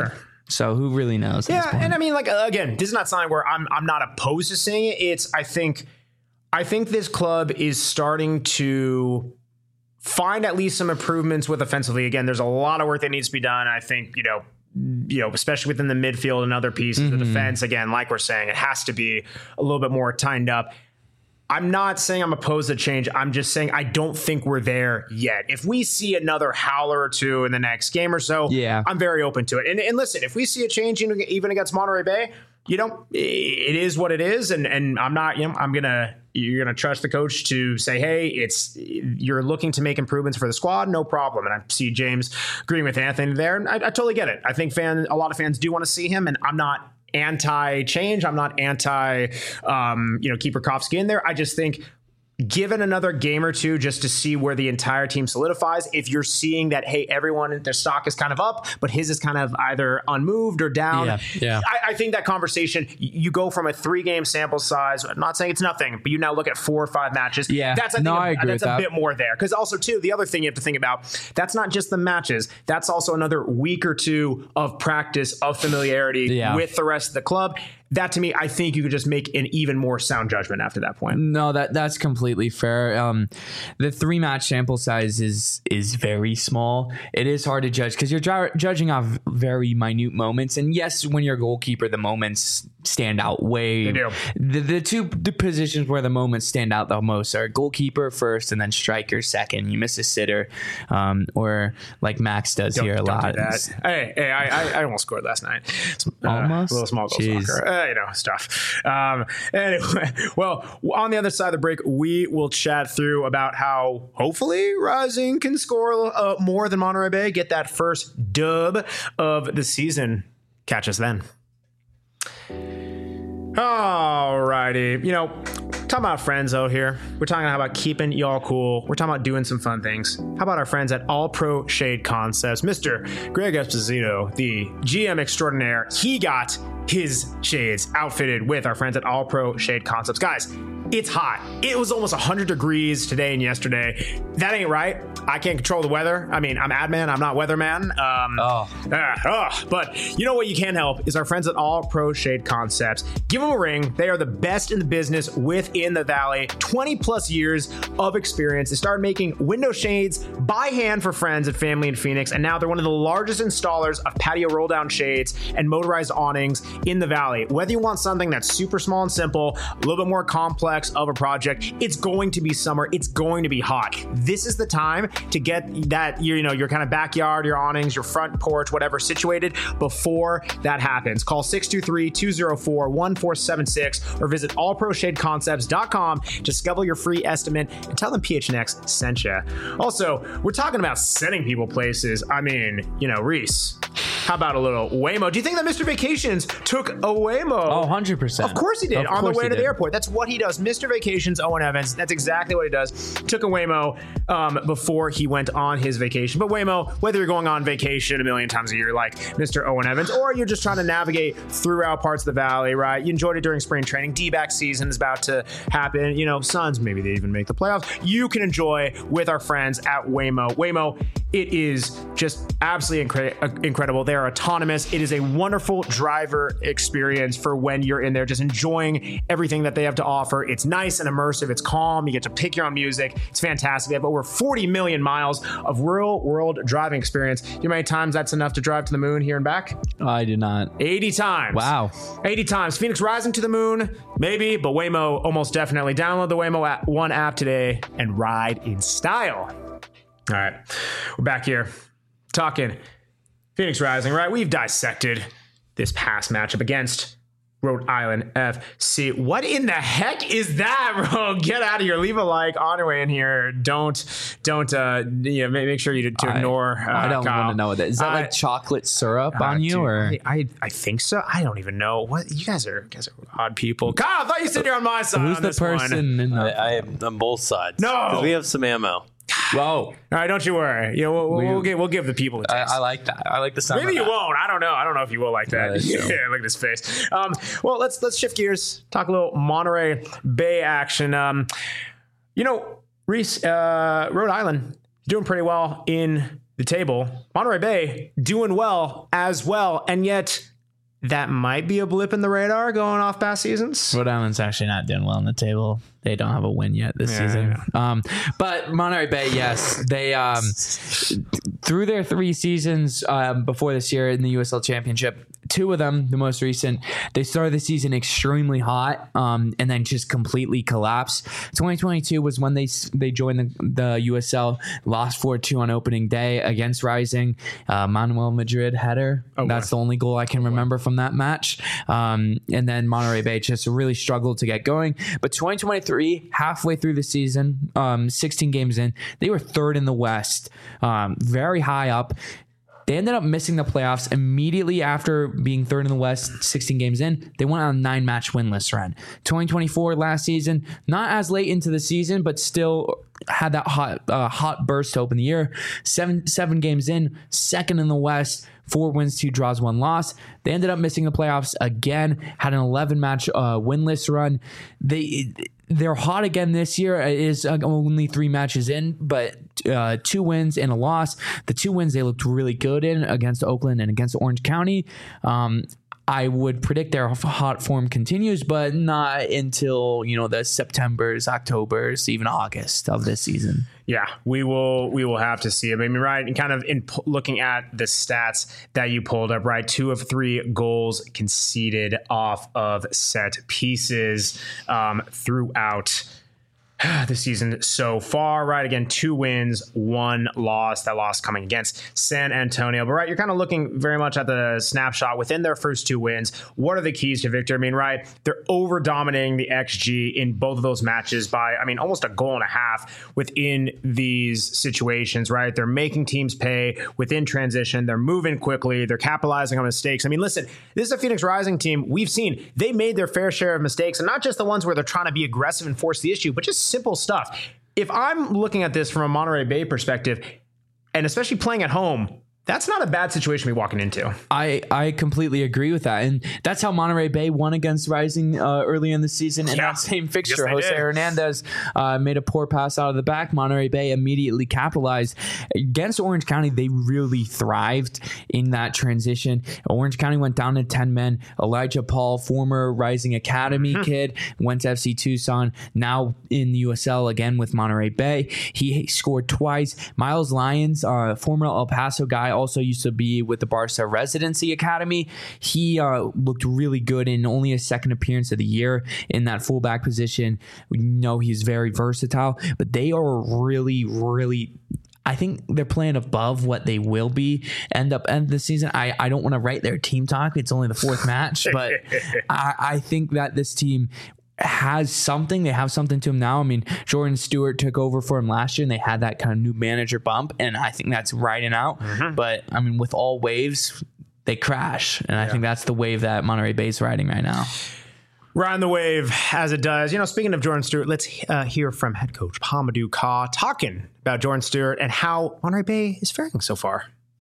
So who really knows? Yeah, and I mean, like, again, this is not something where I'm not opposed to saying it. It's I think this club is starting to find at least some improvements with offensively. Again, there's a lot of work that needs to be done. I think, you know, especially within the midfield and other pieces, the defense, again, like we're saying, it has to be a little bit more tightened up. I'm not saying I'm opposed to change. I'm just saying I don't think we're there yet. If we see another howler or two in the next game or so, I'm very open to it. And listen, if we see a change even against Monterey Bay, you know, it is what it is. And I'm not, you know, you're going to trust the coach to say, hey, you're looking to make improvements for the squad. No problem. And I see James agreeing with Anthony there. And I totally get it. I think a lot of fans do want to see him, and I'm not anti-change. I'm not anti, keep Rakowski in there. I just think given another game or two just to see where the entire team solidifies, if you're seeing that, hey, everyone, their stock is kind of up, but his is kind of either unmoved or down. I think that conversation, you go from a 3-game sample size. I'm not saying it's nothing, but you now look at 4 or 5 matches. That's a bit more there. Because also, too, the other thing you have to think about, that's not just the matches. That's also another week or two of practice, of familiarity with the rest of the club. That, to me, I think you could just make an even more sound judgment after that point. No, that's completely fair. The 3-match sample size is very small. It is hard to judge because you're judging off very minute moments. And yes, when you're a goalkeeper, the moments stand out way. They do. The two positions where the moments stand out the most are goalkeeper first and then striker second. You miss a sitter, or like Max does here a lot. Do that. Hey, I almost scored last night. Almost? A little small goal soccer. Stuff. Anyway, well, on the other side of the break, we will chat through about how hopefully Rising can score more than Monterey Bay, get that first dub of the season. Catch us then. Alrighty. You know, talking about friends out here. We're talking about keeping y'all cool. We're talking about doing some fun things. How about our friends at All Pro Shade Concepts? Mr. Greg Esposito, the GM extraordinaire, he got his shades outfitted with our friends at All Pro Shade Concepts. Guys, it's hot. It was almost 100 degrees today and yesterday. That ain't right. I can't control the weather. I mean, I'm Adman. I'm not weatherman. But you know what you can help is our friends at All Pro Shade Concepts. Give them a ring. They are the best in the business within the Valley. 20 plus years of experience. They started making window shades by hand for friends and family in Phoenix. And now they're one of the largest installers of patio roll down shades and motorized awnings in the Valley. Whether you want something that's super small and simple, a little bit more complex of a project, it's going to be summer. It's going to be hot. This is the time to get that, your kind of backyard, your awnings, your front porch, whatever, situated before that happens. Call 623-204-1476 or visit allproshadeconcepts.com to schedule your free estimate and tell them PHNX sent you. Also, we're talking about sending people places. I mean, Reese, how about a little Waymo? Do you think that Mr. Vacations took a Waymo? Oh, 100%. Of course he did. On the way to the airport. That's what he does. Mr. Vacations, Owen Evans. That's exactly what he does. Took a Waymo before he went on his vacation. But Waymo, whether you're going on vacation a million times a year like Mr. Owen Evans, or you're just trying to navigate throughout parts of the Valley, right? You enjoyed it during spring training. D-back season is about to happen. Suns, maybe they even make the playoffs. You can enjoy with our friends at Waymo. Waymo, it is just absolutely incredible. They are autonomous. It is a wonderful driver experience for when you're in there just enjoying everything that they have to offer. It's nice and immersive. It's calm. You get to pick your own music. It's fantastic. They have over 40 million miles of real world driving experience. You know how many times that's enough to drive to the moon here and back? I do not. 80 times. Wow. 80 times. Phoenix Rising to the moon? Maybe, but Waymo almost definitely. Download the Waymo One app today and ride in style. All right. We're back here talking Phoenix Rising, right? We've dissected this past matchup against Rhode Island FC. What in the heck is that, bro? Get out of here. Leave a like on your way in here. Don't make sure you to ignore I don't Kyle. want to know what that is. Is that like chocolate syrup on you? Dude, or I think so. I don't even know. What you guys are odd people. Kyle, I thought you said you're on my side. Who's on the this one. person in the I am on both sides. No. 'Cause we have some ammo. Whoa. All right, don't you worry. We'll give the people a taste. I like that. I like the sound. Maybe of you that. won't. I don't know. I don't know if you will like that. Yeah, that's true. Look at his face. Well, let's shift gears. Talk a little Monterey Bay action. Reese, Rhode Island doing pretty well in the table, Monterey Bay doing well as well, and yet that might be a blip in the radar going off past seasons. Rhode Island's actually not doing well on the table. They don't have a win yet this season. Yeah. But Monterey Bay, yes, they through their 3 seasons before this year in the USL Championship, 2 of them, the most recent, they started the season extremely hot and then just completely collapsed. 2022 was when they joined the USL, lost 4-2 on opening day against Rising. Manuel Madrid header. That's the only goal I can remember from that match. And then Monterey Bay just really struggled to get going. But 2023, halfway through the season, 16 games in, they were 3rd in the West, very high up. They ended up missing the playoffs immediately after being 3rd in the West, 16 games in. They went on a 9-match winless run. 2024 last season, not as late into the season, but still had that hot burst to open the year. Seven games in, 2nd in the West, 4 wins, 2 draws, 1 loss. They ended up missing the playoffs again, had an 11-match winless run. They're hot again this year. It is only 3 matches in, but 2 wins and a loss. The 2 wins they looked really good in against Oakland and against Orange County. I would predict their hot form continues, but not until, the Septembers, Octobers, even August of this season. Yeah, we will have to see. I mean, right, and kind of in looking at the stats that you pulled up, right, 2 of 3 goals conceded off of set pieces throughout the season so far, right? Again, 2 wins, 1 loss. That loss coming against San Antonio. But right, you're kind of looking very much at the snapshot within their first 2 wins. What are the keys to victory? I mean, right, they're over dominating the XG in both of those matches by, almost a goal and a half within these situations, right? They're making teams pay within transition. They're moving quickly. They're capitalizing on mistakes. Listen, this is a Phoenix Rising team. We've seen they made their fair share of mistakes, and not just the ones where they're trying to be aggressive and force the issue, but just simple stuff. If I'm looking at this from a Monterey Bay perspective, and especially playing at home, that's not a bad situation to be walking into. I completely agree with that. And that's how Monterey Bay won against Rising early in the season in that same fixture. Yes, Jose Hernandez made a poor pass out of the back. Monterey Bay immediately capitalized. Against Orange County, they really thrived in that transition. Orange County went down to 10 men. Elijah Paul, former Rising Academy kid, went to FC Tucson, now in the USL again with Monterey Bay. He scored twice. Miles Lyons, former El Paso guy, also used to be with the Barca Residency Academy. He looked really good in only his 2nd appearance of the year in that fullback position. We know he's very versatile, but they are really, really, I think they're playing above what they will be end the season. I don't want to write their team talk. It's only the 4th match, but I think that this team has something. They have something to him now. Jordan Stewart took over for him last year, and they had that kind of new manager bump, and I think that's riding out. But with all waves, they crash, and I think that's the wave that Monterey Bay is riding right now. Riding the wave as it does. Speaking of Jordan Stewart, let's hear from head coach Hamadou Ka talking about Jordan Stewart and how Monterey Bay is faring so far.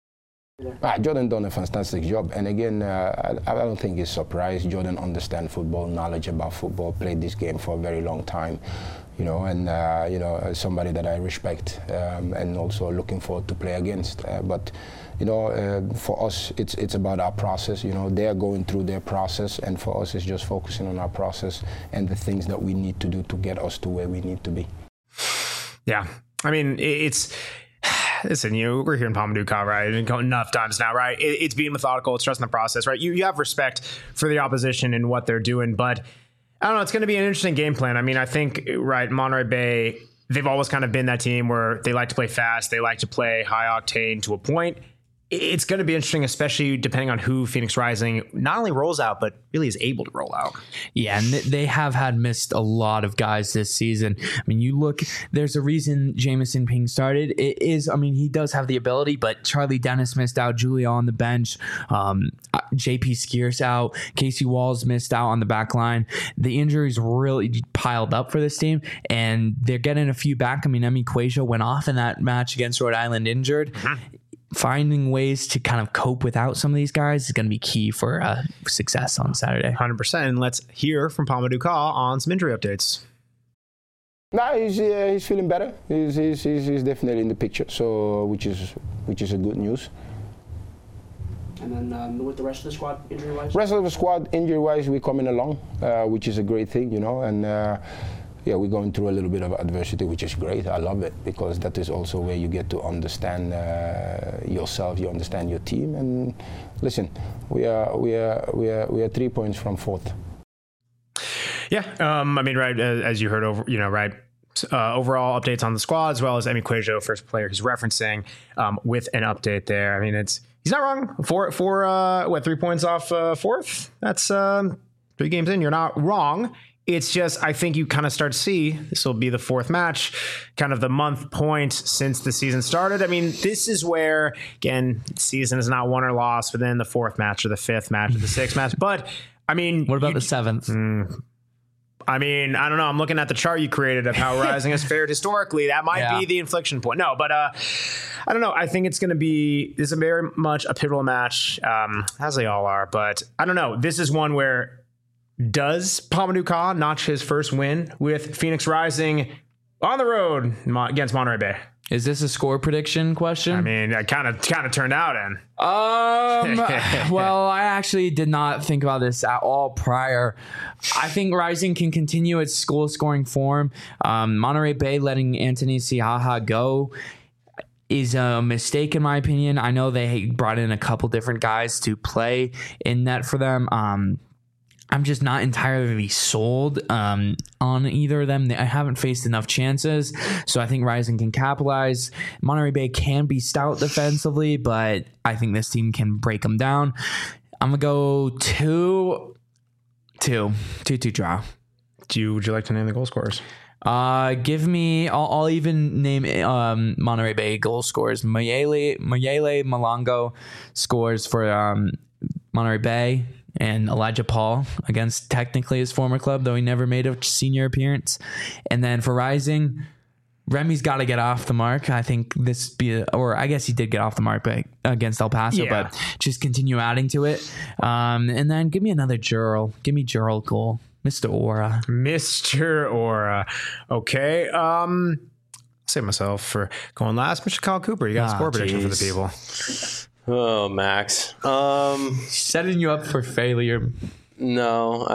Jordan done a fantastic job, and again, I don't think he's surprised. Jordan understands football, knowledge about football, played this game for a very long time, and somebody that I respect, and also looking forward to play against. But for us, it's about our process. They are going through their process, and for us, it's just focusing on our process and the things that we need to do to get us to where we need to be. Yeah, listen, we're hearing Hamadou Ka, right? Enough times now, right? It's being methodical. It's trusting the process, right? You have respect for the opposition and what they're doing, but I don't know. It's going to be an interesting game plan. I think, right, Monterey Bay, they've always kind of been that team where they like to play fast. They like to play high octane to a point. It's going to be interesting, especially depending on who Phoenix Rising not only rolls out, but really is able to roll out. Yeah, and they have missed a lot of guys this season. You look, there's a reason Jamison Ping started. It is, he does have the ability, but Charlie Dennis missed out, Julia on the bench, JP Skier's out, Casey Walls missed out on the back line. The injuries really piled up for this team, and they're getting a few back. Emmy Quasia went off in that match against Rhode Island injured. Finding ways to kind of cope without some of these guys is going to be key for success on Saturday. 100%. And let's hear from Hamadou Ka on some injury updates. He's feeling better. He's definitely in the picture, so which is which is a good news. And then with the rest of the squad, injury-wise? Rest of the squad, injury-wise, we're coming along, which is a great thing, you know, and yeah, we're going through a little bit of adversity, which is great. I love it because that is also where you get to understand yourself, you understand your team, and listen, we are 3 points from fourth. Yeah, I mean, right, as you heard over, you know, right. Overall updates on the squad, as well as Emi Cuejo, first player he's referencing, with an update there. I mean, he's not wrong. 3 points off fourth? That's 3 games in. You're not wrong. It's just, I think you kind of start to see, this will be the fourth match, kind of the month point since the season started. I mean, this is where, again, the season is not won or lost within the fourth match or the fifth match or the sixth match. But, I mean... What about the seventh? I mean, I don't know. I'm looking at the chart you created of how Rising has fared historically. That might be the inflection point. No, but I don't know. I think it's going to be, this is very much a pivotal match, as they all are. But I don't know. This is one where, does Mamadou Ka notch his first win with Phoenix Rising on the road against Monterey Bay? Is this a score prediction question? I mean, I kind of turned out in. Well, I actually did not think about this at all prior. I think Rising can continue its goal scoring form. Monterey Bay letting Anthony Siaha go is a mistake in my opinion. I know they brought in a couple different guys to play in net for them. I'm just not entirely sold on either of them. I haven't faced enough chances, so I think Rising can capitalize. Monterey Bay can be stout defensively, but I think this team can break them down. I'm going to go 2-2 draw. Would you like to name the goal scorers? Give me, I'll even name Monterey Bay goal scorers. Mayele Malongo scores for Monterey Bay. And Elijah Paul against technically his former club, though he never made a senior appearance. And then for Rising, Remy's got to get off the mark. I think I guess he did get off the mark against El Paso, but just continue adding to it. And then give me another Jurl. Give me Jurl goal. Mr. Aura. Mr. Aura. Okay. I'll save myself for going last. Mr. Kyle Cooper, you got a score prediction for the people. Oh, Max. Setting you up for failure. No,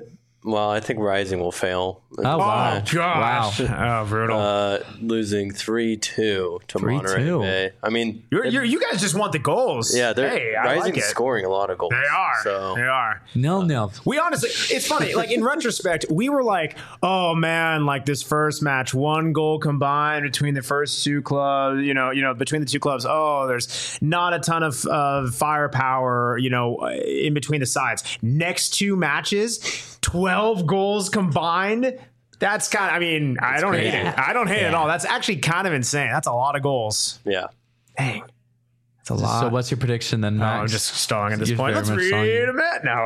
I think Rising will fail. Oh, wow. Gosh. Wow. Oh, brutal. Losing 3-2 to Monterey Bay. I mean, you guys just want the goals. Yeah, Rising is scoring a lot of goals. They are. They are. No. We honestly, it's funny. Like in retrospect, we were like, oh man, like this first match, 1 goal combined between the first two clubs. You know, between the two clubs. Oh, there's not a ton of firepower. In between the sides. Next 2 matches, 12 goals combined. That's kind of, I mean, I don't hate it. I don't hate it at all. That's actually kind of insane. That's a lot of goals. Yeah. Dang. That's a lot. So what's your prediction then, Max? I'm just stalling at this point. Let's read a bit now.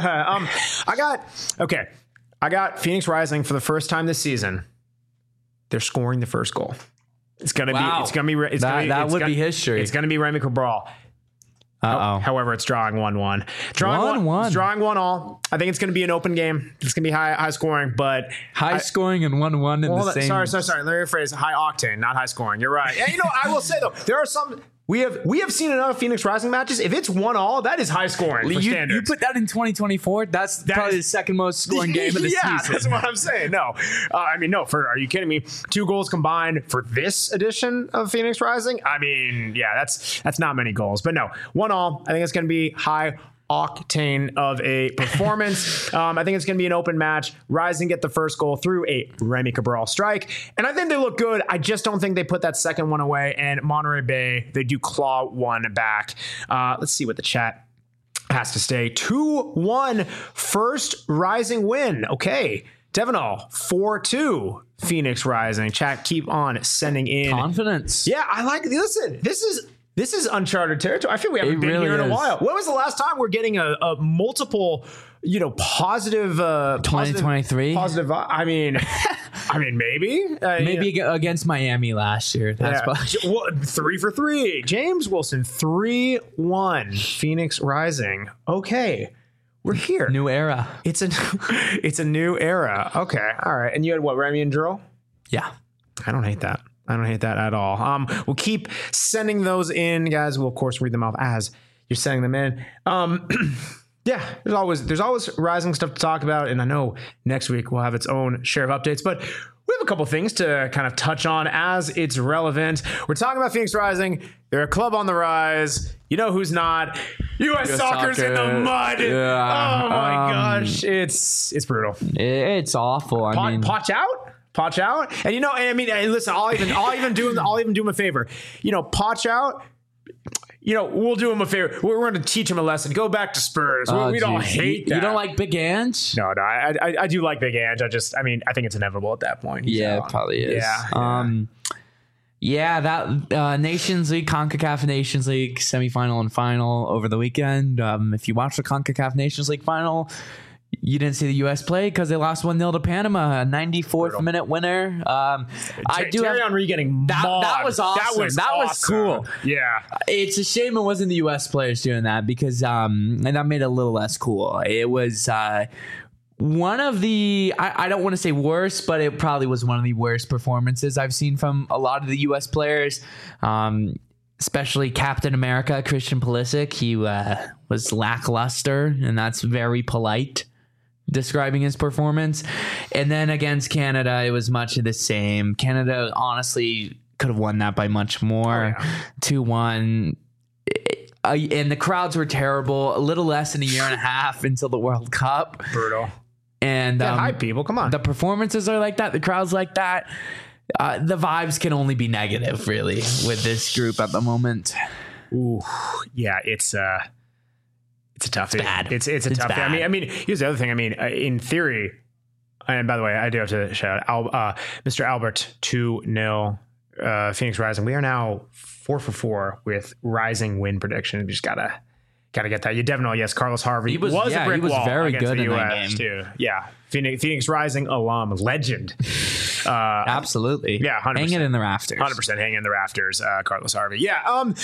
I got Phoenix Rising for the first time this season. They're scoring the first goal. It's going to be, that would be history. It's going to be Remy Cabral. However, it's drawing 1-1. Drawing 1-1. I think it's going to be an open game. It's going to be high scoring, but high scoring and 1-1 in the same. Sorry. Let me rephrase. High octane, not high scoring. You're right. Yeah, I will say though, there are some. We have seen enough Phoenix Rising matches. If it's 1-1, that is high scoring for standards. You put that in 2024. That's probably the second most scoring game of the season. Yeah, that's what I'm saying. No, are you kidding me? 2 goals combined for this edition of Phoenix Rising. I mean, yeah, that's not many goals, but no, 1-1. I think it's going to be high octane of a performance. I think it's going to be an open match. Rising get the first goal through a Remy Cabral strike, and I think they look good. I just don't think they put that second one away, and Monterey Bay, they do claw one back. Let's see what the chat has to say. 2-1 first Rising win. Okay. Devenol, 4-2 Phoenix Rising. Chat, keep on sending in confidence. Yeah, I like. Listen, this is uncharted territory. I feel we haven't been here in a while. When was the last time we're getting a multiple, positive 2023? Positive. I mean, maybe. Maybe against Miami last year. That's probably 3 for 3. James Wilson, 3-1. Phoenix Rising. Okay. We're here. New era. It's a new era. Okay. All right. And you had what, Remy and Drill? Yeah. I don't hate that. I don't hate that at all. We'll keep sending those in, guys. We'll of course read them off as you're sending them in. Yeah, there's always Rising stuff to talk about, and I know next week we'll have its own share of updates, but we have a couple things to kind of touch on as it's relevant. We're talking about Phoenix Rising. They're a club on the rise. You know who's not? U.S. Soccer's in the mud. Yeah. Oh my gosh, it's brutal. It's awful. I mean, Potch out, and listen, I'll even do him a favor. Potch out. We'll do him a favor. We're going to teach him a lesson. Go back to Spurs. We don't hate that. You don't like Big Ange? No, I do like Big Ange. I think it's inevitable at that point. Yeah, it probably is. Yeah. That Nations League, CONCACAF Nations League semifinal and final over the weekend. If you watch the CONCACAF Nations League final, you didn't see the U.S. play because they lost 1-0 to Panama, a 94th minute winner. Thierry Henry getting mauled. That was awesome. That was cool. Yeah. It's a shame it wasn't the U.S. players doing that because and that made it a little less cool. It was one of the, I don't want to say worst, but it probably was one of the worst performances I've seen from a lot of the U.S. players. Especially Captain America, Christian Pulisic. He was lackluster, and that's very polite describing his performance. And then against Canada, it was much of the same. Canada honestly could have won that by much more. 2-1. And the crowds were terrible. A little less than a year and a half until the World Cup. Brutal. And hi, people. Come on. The performances are like that. The crowd's like that. The vibes can only be negative, really, with this group at the moment. Ooh, yeah, it's a tough. It's bad. It's a tough. Bad. I mean, here's the other thing. I mean, in theory, and by the way, I do have to shout out Mr. Albert 2-0 Phoenix Rising. We are now 4 for 4 with Rising win prediction. We just gotta get that. You definitely yes. Carlos Harvey was a brick wall very against good the in US that game too. Yeah, Phoenix Rising alum, legend. Absolutely. Yeah, 100%. Hang it in the rafters. 100% hang in the rafters. Carlos Harvey. Yeah.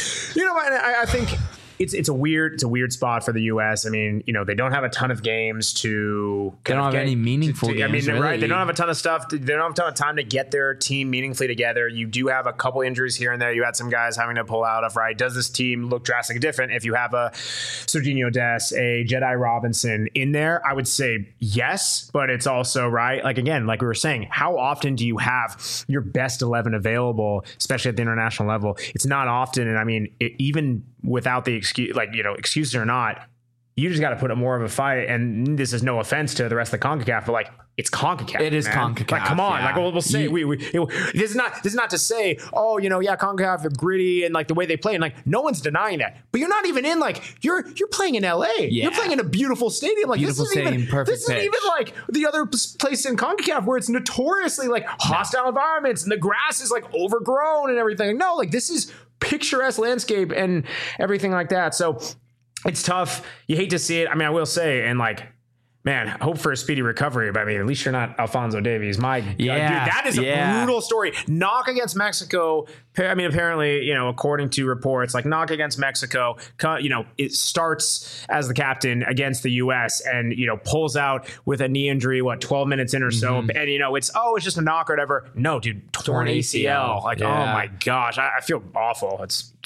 I think it's a weird spot for the U.S. I mean, they don't have a ton of games to. They don't have any meaningful games. I mean, really. Right? They don't have a ton of stuff. They don't have a ton of time to get their team meaningfully together. You do have a couple injuries here and there. You had some guys having to pull out of. Right? Does this team look drastically different if you have a Serginho Dest, a Jedi Robinson in there? I would say yes, but it's also right. Like again, like we were saying, how often do you have your best 11 available, especially at the international level? It's not often, and I mean, even without the excuse, excuses or not, you just got to put up more of a fight. And this is no offense to the rest of the CONCACAF, but it's CONCACAF. It is CONCACAF. Like, come on. Yeah. Like we'll say this is not to say, CONCACAF are gritty and like the way they play, and like no one's denying that. But you're not even in you're playing in LA. Yeah. You're playing in a beautiful stadium. Like beautiful stadium, perfect. This isn't even like the other place in CONCACAF where it's notoriously like hostile environments and the grass is like overgrown and everything. No, like this is picturesque landscape and everything like that. So it's tough. You hate to see it. I mean, I will say, and man, hope for a speedy recovery. But I mean, at least you're not Alphonso Davies. My God, dude, that is a brutal story. Knock against Mexico. I mean, apparently, according to reports, knock against Mexico, it starts as the captain against the U.S. and, pulls out with a knee injury, 12 minutes in or so. And, it's just a knock or whatever. No, dude, torn ACL. Oh my gosh. I feel awful.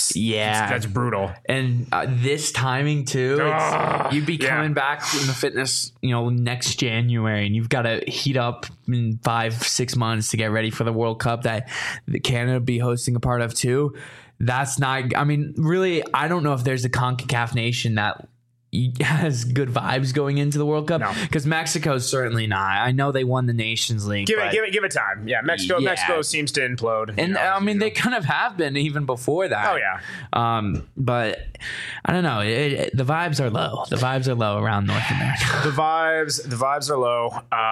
That's brutal. And this timing too, you'd be coming back in the fitness, next January, and you've got to heat up in 5-6 months to get ready for the World Cup that Canada be hosting a part of too. That's not, I mean, really, I don't know if there's a CONCACAF nation that has good vibes going into the World Cup, because Mexico's certainly not. I know they won the Nations League. Give it time. Yeah, Mexico seems to implode. And I mean, they kind of have been even before that. Oh yeah. But I don't know. The vibes are low. The vibes are low around North America. The vibes are low.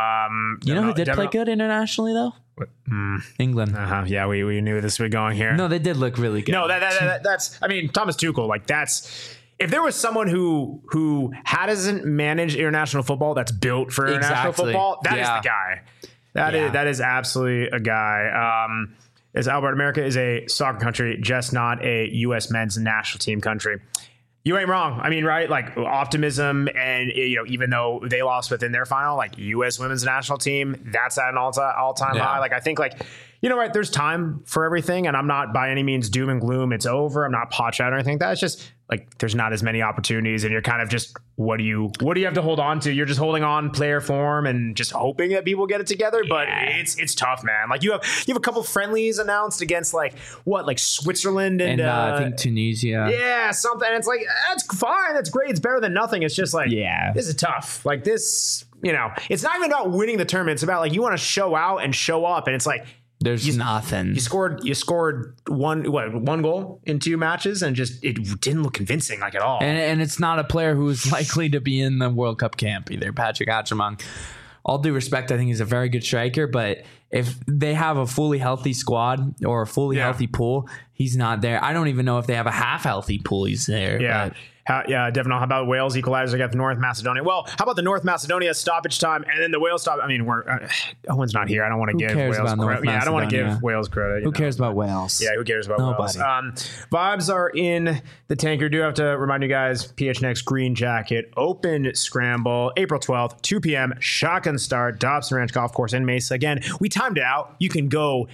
Who did play good internationally though? England. Yeah, we knew this was going here. No, they did look really good. No, that's. I mean, Thomas Tuchel. That's. If there was someone who hasn't managed international football that's built for international football, that is the guy. That is absolutely a guy. As Albert, America is a soccer country, just not a U.S. men's national team country. You ain't wrong. I mean, right? Like optimism, and even though they lost within their final, like U.S. women's national team, that's at an all-time high. Like I think, like right? There's time for everything, and I'm not by any means doom and gloom. It's over. I'm not pot shot or anything like that. It's just like there's not as many opportunities, and you're kind of just what do you have to hold on to? You're just holding on player form and just hoping that people get it together. But it's tough, man. Like you have a couple friendlies announced against like Switzerland and I think Tunisia. Yeah, something. And it's like that's fine. That's great. It's better than nothing. It's just like this is tough. Like this, it's not even about winning the tournament. It's about like you want to show out and show up, and it's like. There's nothing. You scored one goal in 2 matches, and just it didn't look convincing like at all. And it's not a player who's likely to be in the World Cup camp either. Patrick Atchemong, all due respect, I think he's a very good striker, but if they have a fully healthy squad or a fully healthy pool, he's not there. I don't even know if they have a half healthy pool. He's there. Yeah. But. Devon, how about Wales equalizer against North Macedonia? Well, how about the North Macedonia stoppage time and then the Wales stop? I mean, Owen's not here. I don't want to give Wales credit. I don't want to give Wales credit. Who cares about Wales? Yeah, who cares about Nobody. Wales? Vibes are in the tanker. Do have to remind you guys, PHNX Green Jacket Open Scramble, April 12th, 2 p.m. Shotgun start, Dobson Ranch Golf Course in Mesa. Again, we timed it out. You can go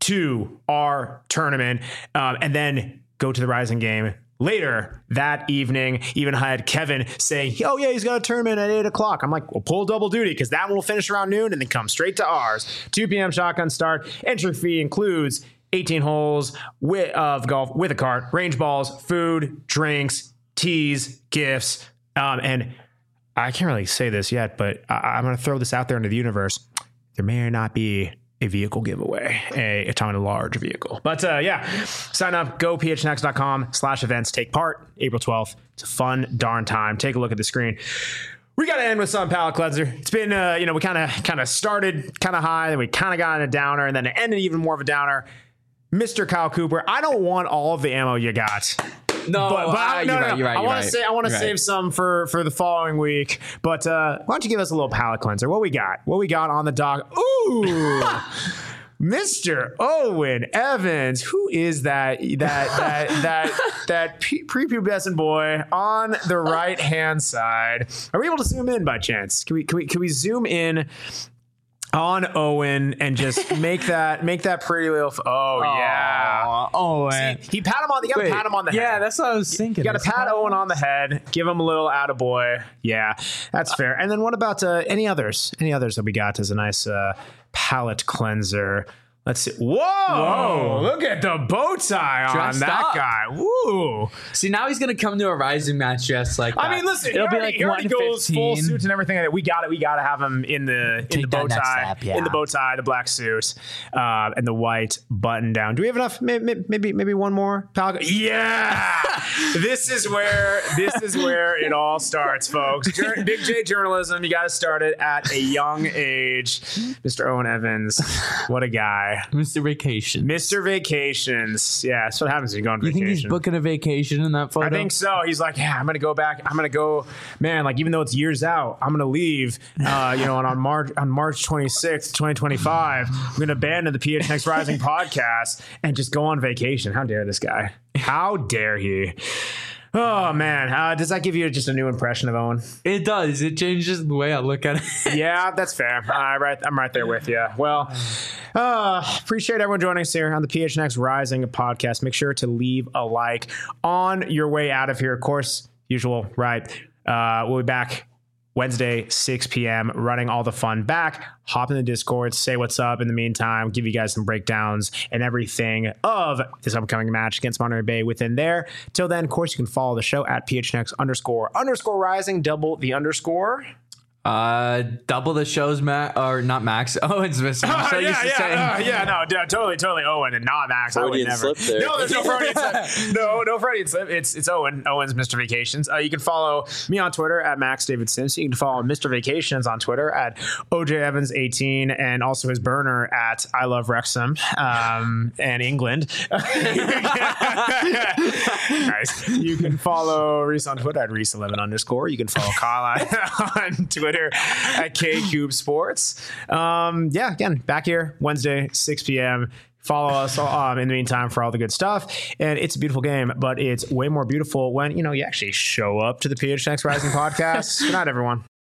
to our tournament and then go to the Rising game. Later that evening, even had Kevin saying, oh, yeah, he's got a tournament at 8 o'clock. I'm like, well, pull double duty because that one will finish around noon and then come straight to ours. 2 p.m. shotgun start. Entry fee includes 18 holes of golf with a cart, range balls, food, drinks, teas, gifts. And I can't really say this yet, but I'm going to throw this out there into the universe. There may or not be a vehicle giveaway, a ton of large vehicle. But sign up, go phnx.com/events, take part, April 12th. It's a fun darn time. Take a look at the screen. We got to end with some palate cleanser. It's been, we kind of started kind of high, then we kind of got in a downer, and then it ended even more of a downer. Mr. Kyle Cooper, I don't want all of the ammo you got. No, you're right. I want to save some for the following week. But why don't you give us a little palate cleanser? What we got on the dock? Ooh, Mr. Owen Evans. Who is that prepubescent boy on the right hand side? Are we able to zoom in by chance? Can we zoom in on Owen and just make that pretty little Owen. See, you pat him on. You gotta pat him on the head. Yeah, that's what I was thinking. You gotta pat Owen on the head. Give him a little attaboy. Yeah, that's fair. And then what about any others? Any others that we got as a nice palate cleanser? Let's see. Whoa! Look at the bow tie on that guy. Woo! See, now he's gonna come to a Rising match dressed like that. I mean, listen, he already goes full suits and everything. We got it. We got to have him in the bow tie, in the bow tie, the black suit, and the white button down. Do we have enough? Maybe one more. Yeah. This is where it all starts, folks. Big J journalism. You got to start it at a young age. Mr. Owen Evans, what a guy. Mr. Vacations. Yeah, that's what happens when you go on vacation. You think he's booking a vacation in that photo? I think so. He's like, yeah, I'm going to go back. I'm going to go, man, like even though it's years out, I'm going to leave, on March 26th, 2025. I'm going to abandon the PHNX Rising podcast and just go on vacation. How dare this guy? How dare he? Oh, man. Does that give you just a new impression of Owen? It does. It changes the way I look at it. Yeah, that's fair. I'm right there with you. Well, appreciate everyone joining us here on the PHNX Rising podcast. Make sure to leave a like on your way out of here. Of course, usual, right? We'll be back Wednesday, 6 p.m., running all the fun back. Hop in the Discord, say what's up in the meantime, give you guys some breakdowns and everything of this upcoming match against Monterey Bay within there. Till then, of course, you can follow the show at PHNX__rising, double the underscore. Double the show's not Max. Owen's missing. Totally Owen and not Max. I would never. No, there's no Freudian slip. No Freudian slip. It's Owen. Owen's Mr. Vacations. You can follow me on Twitter at Max David Sims. You can follow Mr. Vacations on Twitter at OJ Evans 18 and also his burner at I Love Wrexham and England. Nice. You can follow Reese on Twitter at Reese11_. You can follow Kyle on Twitter at KCube Sports. Again, back here Wednesday, 6 p.m. Follow us in the meantime for all the good stuff. And it's a beautiful game, but it's way more beautiful when, you actually show up to the PHNX Rising podcast. Good night, everyone.